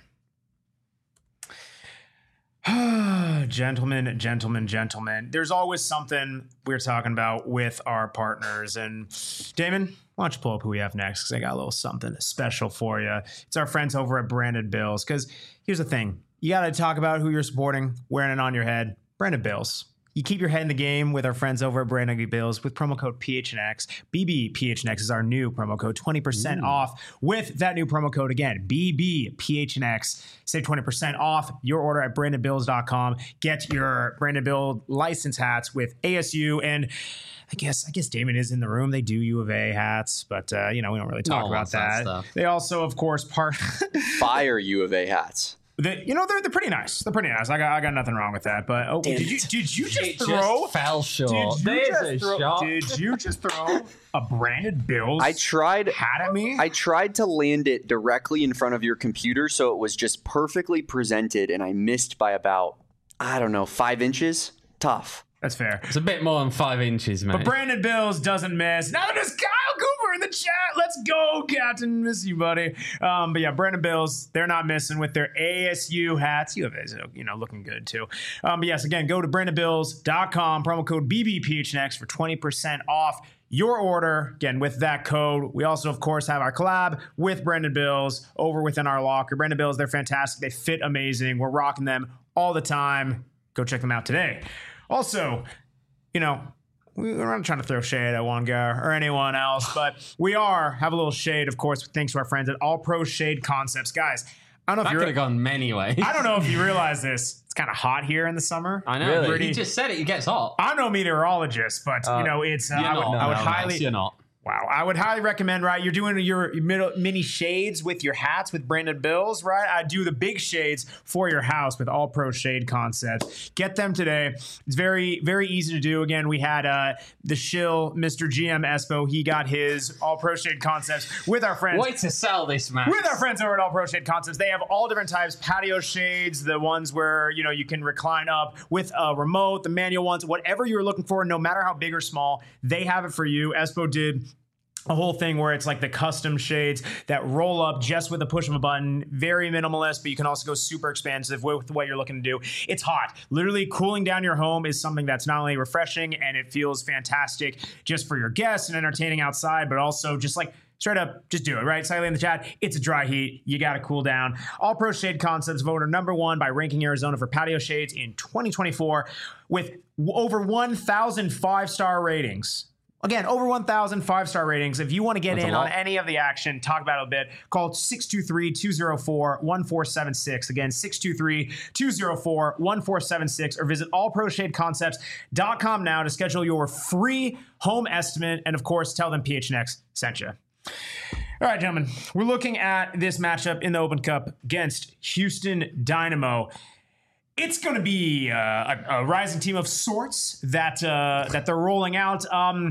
Gentlemen, gentlemen, gentlemen. There's always something we're talking about with our partners. And Damon, why don't you pull up who we have next? Because I got a little something special for you. It's our friends over at Branded Bills. Because here's the thing. You got to talk about who you're supporting, wearing it on your head. Branded Bills. You keep your head in the game with our friends over at Branded Bills with promo code P H N X. B B P H N X is our new promo code. twenty percent off with that new promo code again. B B P H N X. Save twenty percent off your order at branded bills dot com. Get your Branded Bill license hats with A S U and I guess I guess Damon is in the room. They do U of A hats, but uh, you know, we don't really talk No one about wants that that. stuff. They also, of course, part Fire U of A hats. They, you know, they're they're pretty nice. They're pretty nice. I got I got nothing wrong with that. But oh, Damn did you it. did you just It throw? just fell short. Did you There's just a throw? shot. Did you just throw a Branded Bills? I tried. hat at me. I tried to land it directly in front of your computer so it was just perfectly presented, and I missed by about, I don't know, five inches. Tough. That's fair. It's a bit more than five inches, mate. But Branded Bills doesn't miss. Now there's Kyle Cooper in the chat. Let's go, Captain. Miss you, buddy. Um, but yeah, Branded Bills, they're not missing with their A S U hats. You have, you know, looking good too. Um, but yes, again, go to branded bills dot com, promo code B B P H N X for twenty percent off your order. Again, with that code. We also, of course, have our collab with Branded Bills over within our locker. Branded Bills, they're fantastic. They fit amazing. We're rocking them all the time. Go check them out today. Also, you know, we're not trying to throw shade at one guy or anyone else, but we are have a little shade, of course, thanks to our friends at All Pro Shade Concepts. Guys, I don't know That if could you're have gone many ways. I don't know if you realize this. It's kind of hot here in the summer. I know. Really? Pretty, you just said it. It gets hot. I'm no meteorologist, but Uh, you know, it's uh, You're I would, not. I would No, highly Max, you're not. Wow, I would highly recommend, right? You're doing your middle, mini shades with your hats with Branded Bills, right? I do the big shades for your house with All Pro Shade Concepts. Get them today. It's very, very easy to do. Again, we had uh, the shill, Mister G M Espo. He got his All Pro Shade Concepts with our friends. Way to sell this, man. With our friends over at All Pro Shade Concepts, they have all different types, patio shades, the ones where, you know, you can recline up with a remote, the manual ones, whatever you're looking for, no matter how big or small, they have it for you. Espo did a whole thing where it's like the custom shades that roll up just with the push of a button. Very minimalist, but you can also go super expansive with what you're looking to do. It's hot. Literally cooling down your home is something that's not only refreshing and it feels fantastic just for your guests and entertaining outside, but also just like straight up, just do it, right? Silently in the chat, it's a dry heat. You got to cool down. All Pro Shade Concepts voted number one by Ranking Arizona for patio shades in twenty twenty-four with over one thousand five-star ratings. Again, over one thousand five-star ratings. If you want to get That's a in on lot. any of the action, talk about it a bit, call six two three, two oh four, one four seven six. Again, six two three, two oh four, one four seven six, or visit all pro shade concepts dot com now to schedule your free home estimate. And of course, tell them P H N X sent you. All right, gentlemen, we're looking at this matchup in the Open Cup against Houston Dynamo. It's going to be uh, a, a rising team of sorts that uh, that they're rolling out. Um,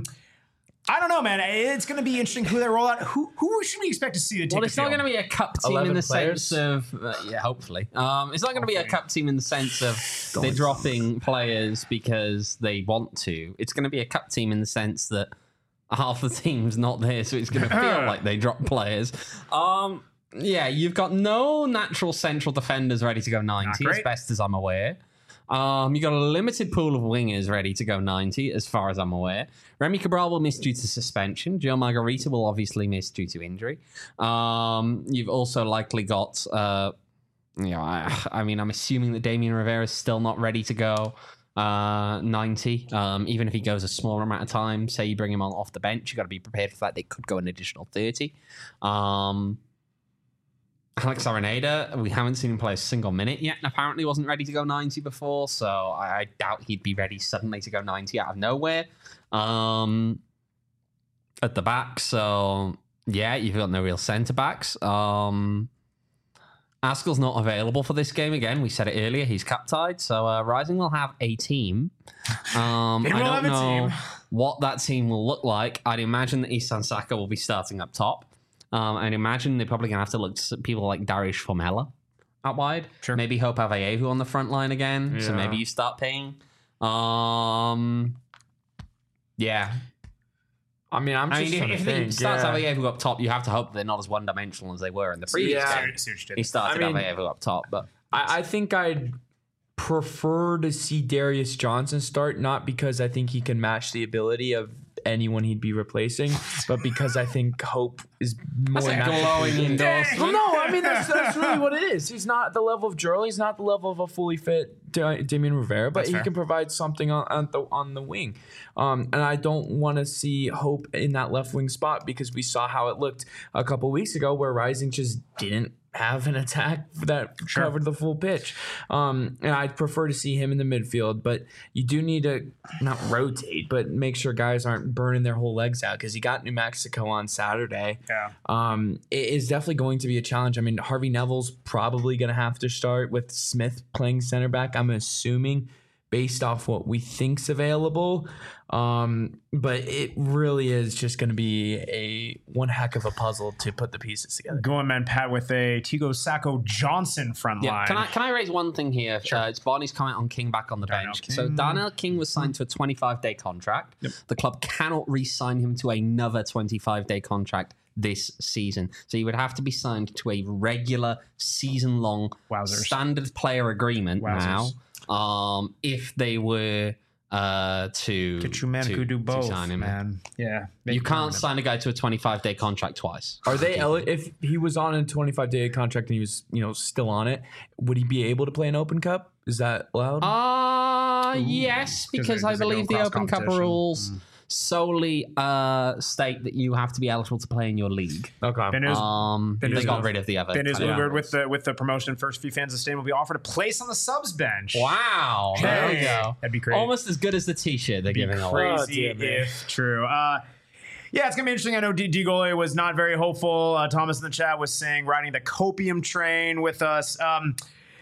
I don't know, man. It's going to be interesting who they roll out. Who who should we expect to see to take Well, the it's not field? going to be a cup team in eleven the players? sense of, uh, yeah, hopefully. Um, it's not going to be a Hopefully. cup team in the sense of they're dropping players because they want to. It's going to be a cup team in the sense that half the team's not there, so it's going to feel like they drop players. Um, yeah, you've got no natural central defenders ready to go ninety, great. as best as I'm aware. Um, you got a limited pool of wingers ready to go ninety, as far as I'm aware. Remy Cabral will miss due to suspension. Joe Margarita will obviously miss due to injury. Um, you've also likely got, uh, you know, I, I mean, I'm assuming that Damian Rivera is still not ready to go uh, ninety. Um, even if he goes a smaller amount of time, say you bring him on off the bench, you got to be prepared for that. They could go an additional thirty. Um, Alex Arenada, we haven't seen him play a single minute yet, and apparently wasn't ready to go ninety before, so I, I doubt he'd be ready suddenly to go ninety out of nowhere. Um, at the back, so yeah, you've got no real centre backs. Um, Askell's not available for this game again. We said it earlier, he's cap-tied, so uh, Rising will have a team. Um, They I will don't have a know team. what that team will look like. I'd imagine that Isan Saka will be starting up top. Um, I'd imagine they're probably going to have to look to people like Darius Formella out wide. Sure. Maybe Hope Avayevu on the front line again. So Yeah. maybe you start paying. Um, yeah. I mean, I'm just I mean, trying if, to if he think. starts yeah. Avayevu up top, you have to hope they're not as one-dimensional as they were in the previous Yeah. game. Such did. He started I mean- Avayevu up top, but I, I think I'd prefer to see Darius Johnson start, not because I think he can match the ability of anyone he'd be replacing, but because I think Hope is more That's a natural. glowing endorsement. Well, no, I mean that's that's really what it is. He's not at the level of Jurley. He's not at the level of a fully fit Da- Damian Rivera, but That's he fair. can provide something on, on the on the wing. Um, and I don't want to see Hope in that left wing spot because we saw how it looked a couple weeks ago, where Rising just didn't have an attack that Sure. covered the full pitch. Um, and I'd prefer to see him in the midfield, but you do need to not rotate, but make sure guys aren't burning their whole legs out because you got New Mexico on Saturday. Yeah. Um, it is definitely going to be a challenge. I mean, Harvey Neville's probably going to have to start with Smith playing center back, I'm assuming, based off what we think's available. Um, but it really is just going to be a one heck of a puzzle to put the pieces together. Going man Pat with a Tigo Sacco Johnson front yeah. line. Can I can I raise one thing here? Uh, it's Barney's comment on King back on the Darnell bench. King. So Darnell King was signed to a twenty-five day contract. The club cannot re-sign him to another twenty-five day contract this season. So he would have to be signed to a regular season-long Wowzers. standard player agreement Wowzers. now. Um, if they were uh, to Get you man to, who do to both, sign him. man. Yeah. You Make can't permanent. sign a guy to a twenty-five day contract twice. Are they eli- if he was on a twenty-five day contract and he was, you know, still on it, would he be able to play an Open Cup? Is that allowed? Uh, yes, because Does it- I does it go believe the across Open Cup competition? rules solely uh, state that you have to be eligible to play in your league. okay. Ben is, Um, Ben they is got good. rid of the other. ben is kind of Bluebird rules. with the with the promotion. First few fans of Stain will be offered a place on the subs bench. Wow, there we Hey, go. that'd be great. Almost as good as the T-shirt they're giving away. Crazy Oh, dear, man. if true. Uh, yeah, it's gonna be interesting. I know D. D. Gole was not very hopeful. Uh, Thomas in the chat was saying riding the copium train with us. Um,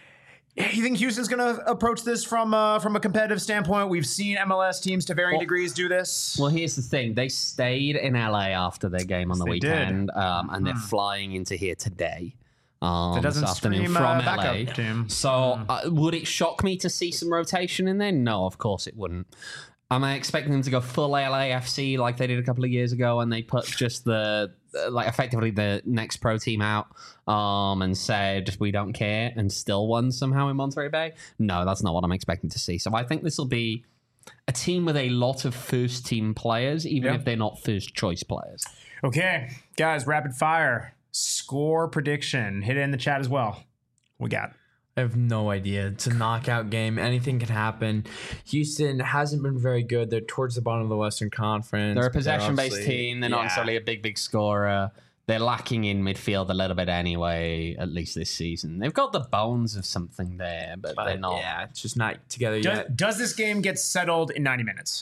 you think Houston's gonna approach this from uh, from a competitive standpoint? We've seen M L S teams to varying Well- degrees do this. Well, here's the thing. They stayed in L A after their game on the they did. weekend, um, and they're flying into here today. Um, That doesn't this afternoon scream, uh, from L A. backup team. So, uh, would it shock me to see some rotation in there? No, of course it wouldn't. Am I expecting them to go full L A F C like they did a couple of years ago and they put just the, uh, like, effectively the next pro team out um, and said, we don't care, and still won somehow in Monterey Bay? No, that's not what I'm expecting to see. So, I think this will be a team with a lot of first team players, even Yeah. if they're not first choice players. Okay, guys, rapid fire score prediction. Hit it in the chat as well. We got. I have no idea. It's a knockout game. Anything can happen. Houston hasn't been very good. They're towards the bottom of the Western Conference. They're a but possession-based obviously- team. They're not Yeah. necessarily a big, big scorer. They're lacking in midfield a little bit anyway, at least this season. They've got the bones of something there, but, But they're not. yeah, it's just not together Does, yet. does this game get settled in ninety minutes?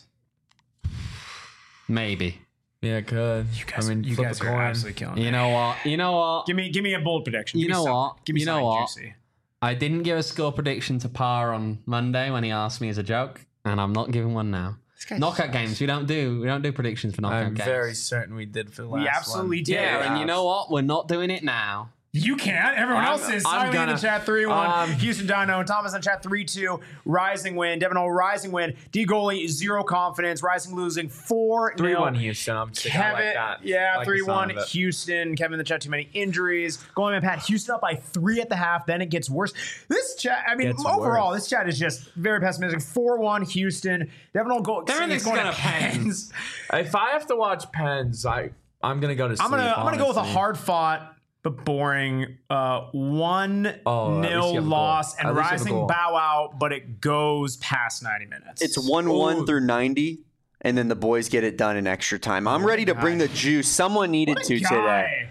Maybe. Yeah, it could. You guys, I mean, you flip guys a are coin. absolutely killing me. You know what? You know what? Give me, give me a bold prediction. You Give me know something. what? Give me You know something what? juicy. I didn't give a score prediction to Parr on Monday when he asked me as a joke, and I'm not giving one now. Knockout games, we don't do we don't do predictions for knockout I'm games. very certain we did for the last We absolutely one. did. yeah, and you know what? We're not doing it now. You can't. Everyone I'm- else is. I'm Silently in the gonna- chat three one. um, Houston Dino. Thomas in the chat three two. Rising win. Devin O rising win. D goalie zero confidence. Rising losing four three one nil. Houston. I'm sticking Kevin, like that. yeah, I like the three one sound of it. Houston. Kevin in the chat, too many injuries. Going man, Pat, Houston up by three at the half, then it gets worse. This chat, I mean, Gets overall, worse. this chat is just very pessimistic. four one Houston. Devin will go. Everything's going gonna to Pens. If I have to watch Pens, I I'm gonna go to sleep. I'm gonna I'm gonna go with a honestly. hard fought but boring uh, one Oh, at least you nil have a loss goal. and At least you have a rising goal. bow out, but it goes past ninety minutes. It's one one Ooh. through ninety, and then the boys get it done in extra time. I'm ready to bring the juice. Someone needed What a to guy. today.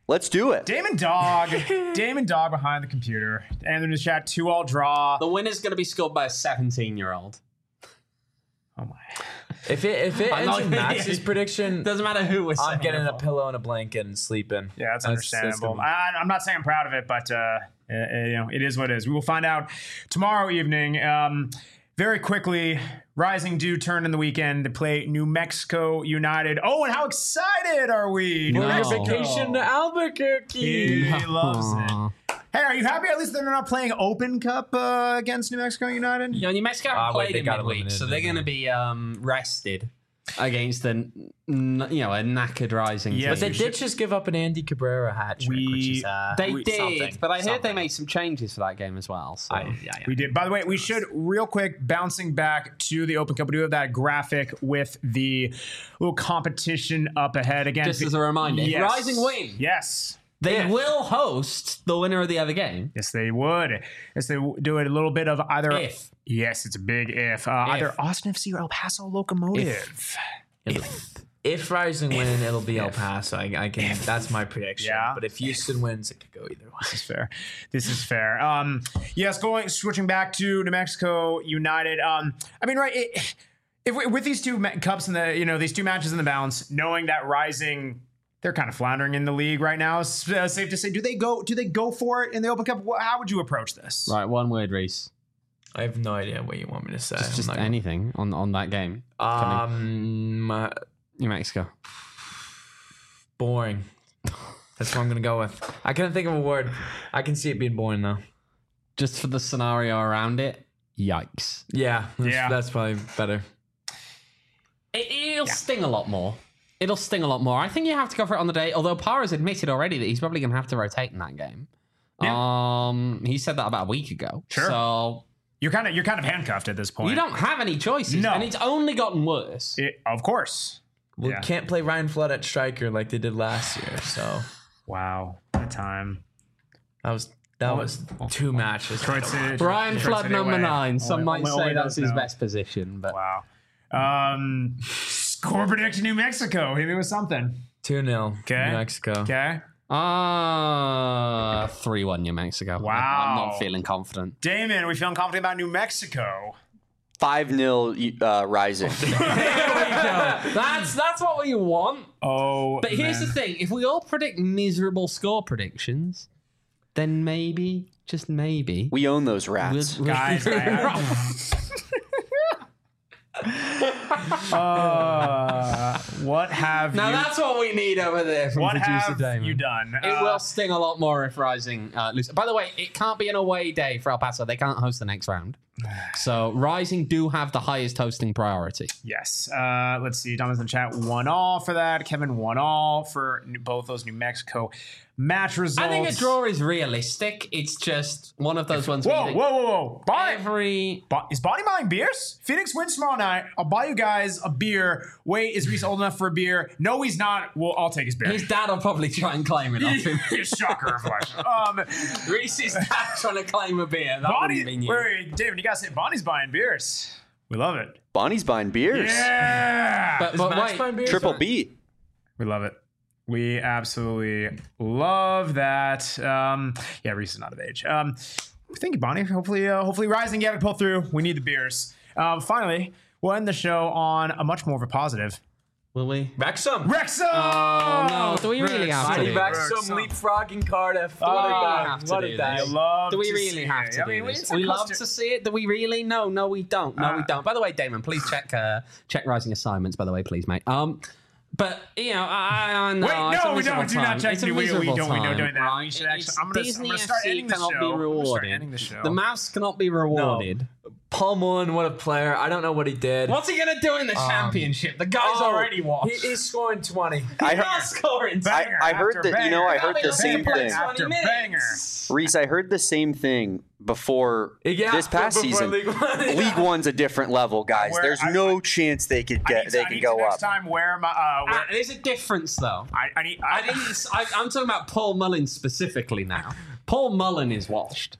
Let's do it. Damon Dog. Damon Dog behind the computer. And in the chat, two all draw. The winner's going to be scored by a seventeen-year-old. Oh my. If it if it I'm ends not in gonna- Max's prediction, Doesn't matter who we're I'm saying getting it a for. pillow and a blanket and sleeping. Yeah, that's, That's- that's understandable. gonna I, I'm not saying I'm proud of it, but uh, uh, you know, it is what it is. We will find out tomorrow evening. Um, very quickly, Rising do turn in the weekend to play New Mexico United. Oh, and how excited are we? New No. Mexico. Vacation to Albuquerque. He loves it. Hey, are you happy at least they're not playing Open Cup uh, against New Mexico United? You know, New Mexico haven't Ah, wait, played they in got midweek, eliminated, so they're didn't going to be um, rested against the, n- you know, a knackered Rising Yeah, team. But they we did just give up an Andy Cabrera hat trick, We- which is uh, They we- did, something, but I heard they something. made some changes for that game as well. So. I, yeah, yeah. We did. By the way, we should real quick bouncing back to the Open Cup. We do have that graphic with the little competition up ahead again. Just as a reminder, if Yes. Rising win, Yes. they If. will host the winner of the other game. Yes, they would. Yes, they w- do it a little bit of either. If. Yes, it's a big if. Uh, If. Either Austin F C or El Paso Locomotive. If, if Rising win, it'll be El Paso. I, I can. That's my prediction. Yeah. But if Houston wins, it could go either way. This is fair. This is fair. Um, yes, going switching back to New Mexico United. Um, I mean, right. It, if we, with these two ma- cups in the, you know, these two matches in the balance, knowing that Rising, they're kind of floundering in the league right now. It's uh, safe to say, do they go? Do they go for it in the Open Cup? Wh- How would you approach this? Right, one word, Reese. I have no idea what you want me to say. Just, I'm just not gonna- anything on, on that game. Um, uh, New Mexico. boring. That's what I'm gonna go with. I couldn't think of a word. I can see it being boring though. Just for the scenario around it, yikes. Yeah, that's, Yeah. that's probably better. It, it'll sting a lot more. It'll sting a lot more. I think you have to go for it on the day, although Parra's admitted already that he's probably going to have to rotate in that game. Um, He said that about a week ago. Sure. So You're kind of you're kind of handcuffed at this point. you don't have any choices. No. And it's only gotten worse. It, of course. We Yeah. can't play Ryan Flood at striker like they did last year. So Wow. That time. that was that was two matches. Detroit City. Brian Detroit Flood City number away. nine. Some Only- might only- say only that's those his know. best position, but Wow. Um, score prediction: New Mexico. Hit me with something. two nil. Okay. New Mexico. Okay. uh three one New Mexico. I'm Wow. not feeling confident. Damon, are we feeling confident about New Mexico? five nil uh, Rising. That's that's what we want. Oh, But here's the thing: if we all predict miserable score predictions, then maybe, just maybe, We own those we'll, rats. we'll Guys, I- Uh, what have now you? that's what we need over there from what producer have Damon. you done? It Uh, will sting a lot more if Rising uh, lose. By the way, it can't be an away day for El Paso. They can't host the next round. So Rising do have the highest hosting priority. Yes. Uh, let's see. Donna's in the chat. One all for that. Kevin one all for New- both those New Mexico match results. I think a draw is realistic. It's just one of those ones. Whoa, where whoa, you think whoa, whoa! Bonnie, every Bo- is Bonnie buying beers? Phoenix wins tomorrow night. I'll buy you guys a beer. Wait, is Reese old enough for a beer? No, he's not. Well, I'll take his beer. his dad will probably try and claim it off him. Shocker of life. Um, Reese's dad trying to claim a beer. That Bonnie, wouldn't be wait, new. wait, David, you gotta say Bonnie's buying beers. We love it. Bonnie's buying beers. Yeah, But, but Max wait, buying beers Triple or- B. we love it. We absolutely love that. Um, yeah, Reese is not of age. Um, thank you, Bonnie. Hopefully, uh, hopefully, Rising get it pull through. We need the beers. Um, finally, we'll end the show on a much more of a positive. will we? Wrexham. Wrexham! Oh, no. Do we really have to Mighty do Wrexham Wrexham. leapfrogging Cardiff. Oh, what we a day. have to What do a this. day. You love Do we to really see have it. to I mean, do this? it's a We love cluster- to see it. Do we really? No, no, we don't. No, we Uh, don't. By the way, Damon, please check uh, check Rising assignments. By the way, please, mate. Um, but you know, I, I know. Wait, it's a no, we miserable don't. Do not time. check It's a me. We, we miserable don't. We don't time, do that. right? We should actually. It's I'm gonna. I'm Disney gonna start F C ending the cannot show. be I'm gonna start rewarded. ending the show. The mouse cannot be rewarded. Paul Mullen, what a player. I don't know what he did. What's he gonna do in the championship? The guy's Oh, already washed. He, he's scoring twenty. I not heard, scoring. I, Banger I heard after that, you know, I banger heard after the same banger. thing. After twenty banger. minutes. Reese, I heard the same thing before Yeah, this past before season. League One. League One's a different level, guys. Where There's I- no chance they could I get need they to, I could need go to up. next time wear my. Uh, wear, Ah, there's a difference, though. I, I need. I I, didn't. I, I'm talking about Paul Mullen specifically now. Paul Mullen is washed.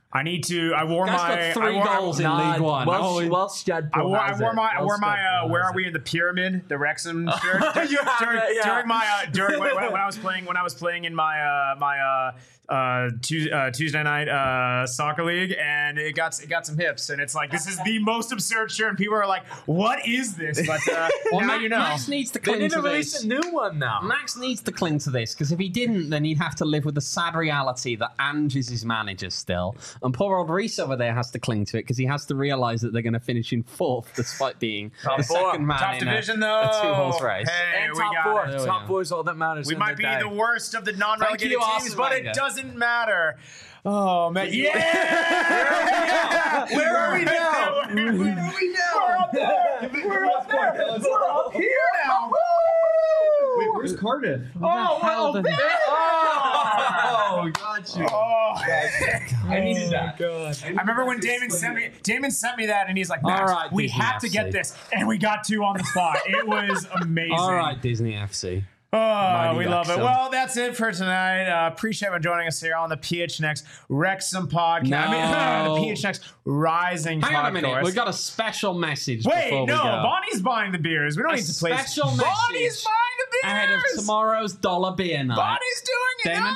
I need to. I wore Guy's my got three I wore, goals in League One. Welsh, Oh, he- Welsh Jed I wore, I has wore it. my, I wore Welsh my, Jed uh, where has are we it. in the pyramid? The Wrexham shirt. You have during, it, yeah. during my, uh, during when, when I was playing, when I was playing in my, uh, my, uh, uh, Tuesday, uh, Tuesday night uh, soccer league, and it got it got some hips, and it's like this is the most absurd shirt, and people are like, "What is this?" But uh, Well, now Max, you know. Max needs to They cling need to to release this. a new one now. Max needs to cling to this because if he didn't, then he'd have to live with the sad reality that Ange is his manager still, and poor old Reece over there has to cling to it because he has to realise that they're going to finish in fourth despite being the four. second man Top in division a, though. a two-horse race. Hey, And we top got four. it. There we Top go. four is all that matters. We in might the be day. the worst of the non-relegated you, teams, Arsene but Wenger. it doesn't matter. Oh man, yeah! Where are we now? Where are we now? Where are we now? We're up there. We're up there. We're up here now. Wait, where's Cardiff? Oh, hell well, did- there. Oh, got you. Oh. I needed that. I remember when Damon sent me Damon sent me that, and he's like, "Max, All right, we Disney have to F C. get this," and we got two on the spot. It was amazing. All right, Disney F C. Oh, we love it. Wrexham. Well, that's it for tonight. Uh, appreciate everyone joining us here on the P H N X Wrexham podcast. I mean, No. the P H N X Rising Hang podcast. on a minute. We've got a special message Wait, before no, we go. Bonnie's buying the beers. We don't A need to play. special Bonnie's message buying the beers. Ahead of tomorrow's dollar beer night. Bonnie's doing it. Damon?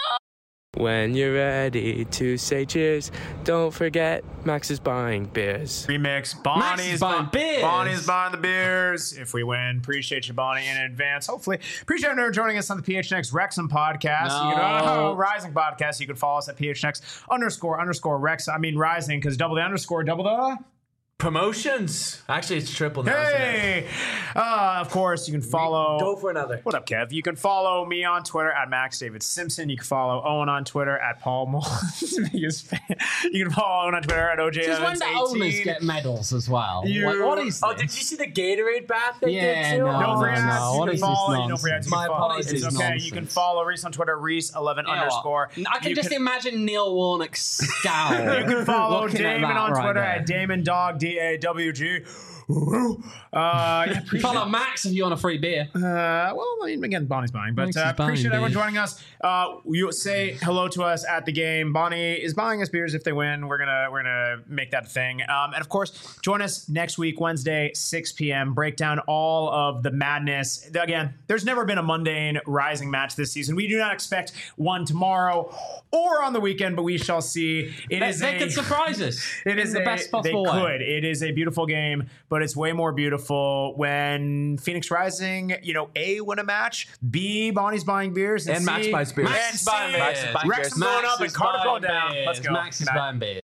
When you're ready to say cheers, don't forget Max is buying beers. Remix. Bonnie's buying bu- beers. Bonnie's buying the beers. If we win, appreciate you, Bonnie, in advance. Hopefully, appreciate everyone joining us on the P H N X Wrexham podcast. You can, No. oh, Rising podcast. You can follow us at P H N X underscore underscore Rex. I mean Rising because double the underscore, double the. Promotions. Actually, it's triple now. isn't it? Hey, uh, of course you can follow. Go for another. What up, Kev? You can follow me on Twitter at Max David Simpson. You can follow Owen on Twitter at Paul Mullins. Biggest fan. You can follow Owen on Twitter at O J Just when Evans the owners eighteen. get medals as well. You- Like, what is Oh, this? did you see the Gatorade bath they Yeah, did too? no, Don't no, forget, no. you What can is this follow, you don't nonsense? forget, you My can follow. apologies. It's okay. Nonsense. You can follow Reese on Twitter, Reese eleven You know what? underscore. I can You just imagine Neil Warnock's scowl. You can follow looking at Damon that on right Twitter there. at Damon Dog D A W G. Uh, yeah, appreciate- Follow Max if you want a free beer. Uh, well, I mean, again, Bonnie's buying, but Max uh, is buying appreciate everyone beers. joining us. Uh, you say hello to us at the game. Bonnie is buying us beers if they win. We're gonna we're gonna make that a thing. Um, and of course, join us next week, Wednesday, six p.m. Break down all of the madness. Again, there's never been a mundane Rising match this season. We do not expect one tomorrow or on the weekend, but we shall see. It They, is they a, could surprise us. It in is the a, best they possible way. could. It is a beautiful game, but it's way more beautiful when Phoenix Rising, you know, A, win a match, B, Bonnie's buying beers, and, And C, Max buys beers. and Max is C, buying beers. Wrexham going Max up and is Cardiff going buying down. beers. Let's go. Max is Good night. buying beers.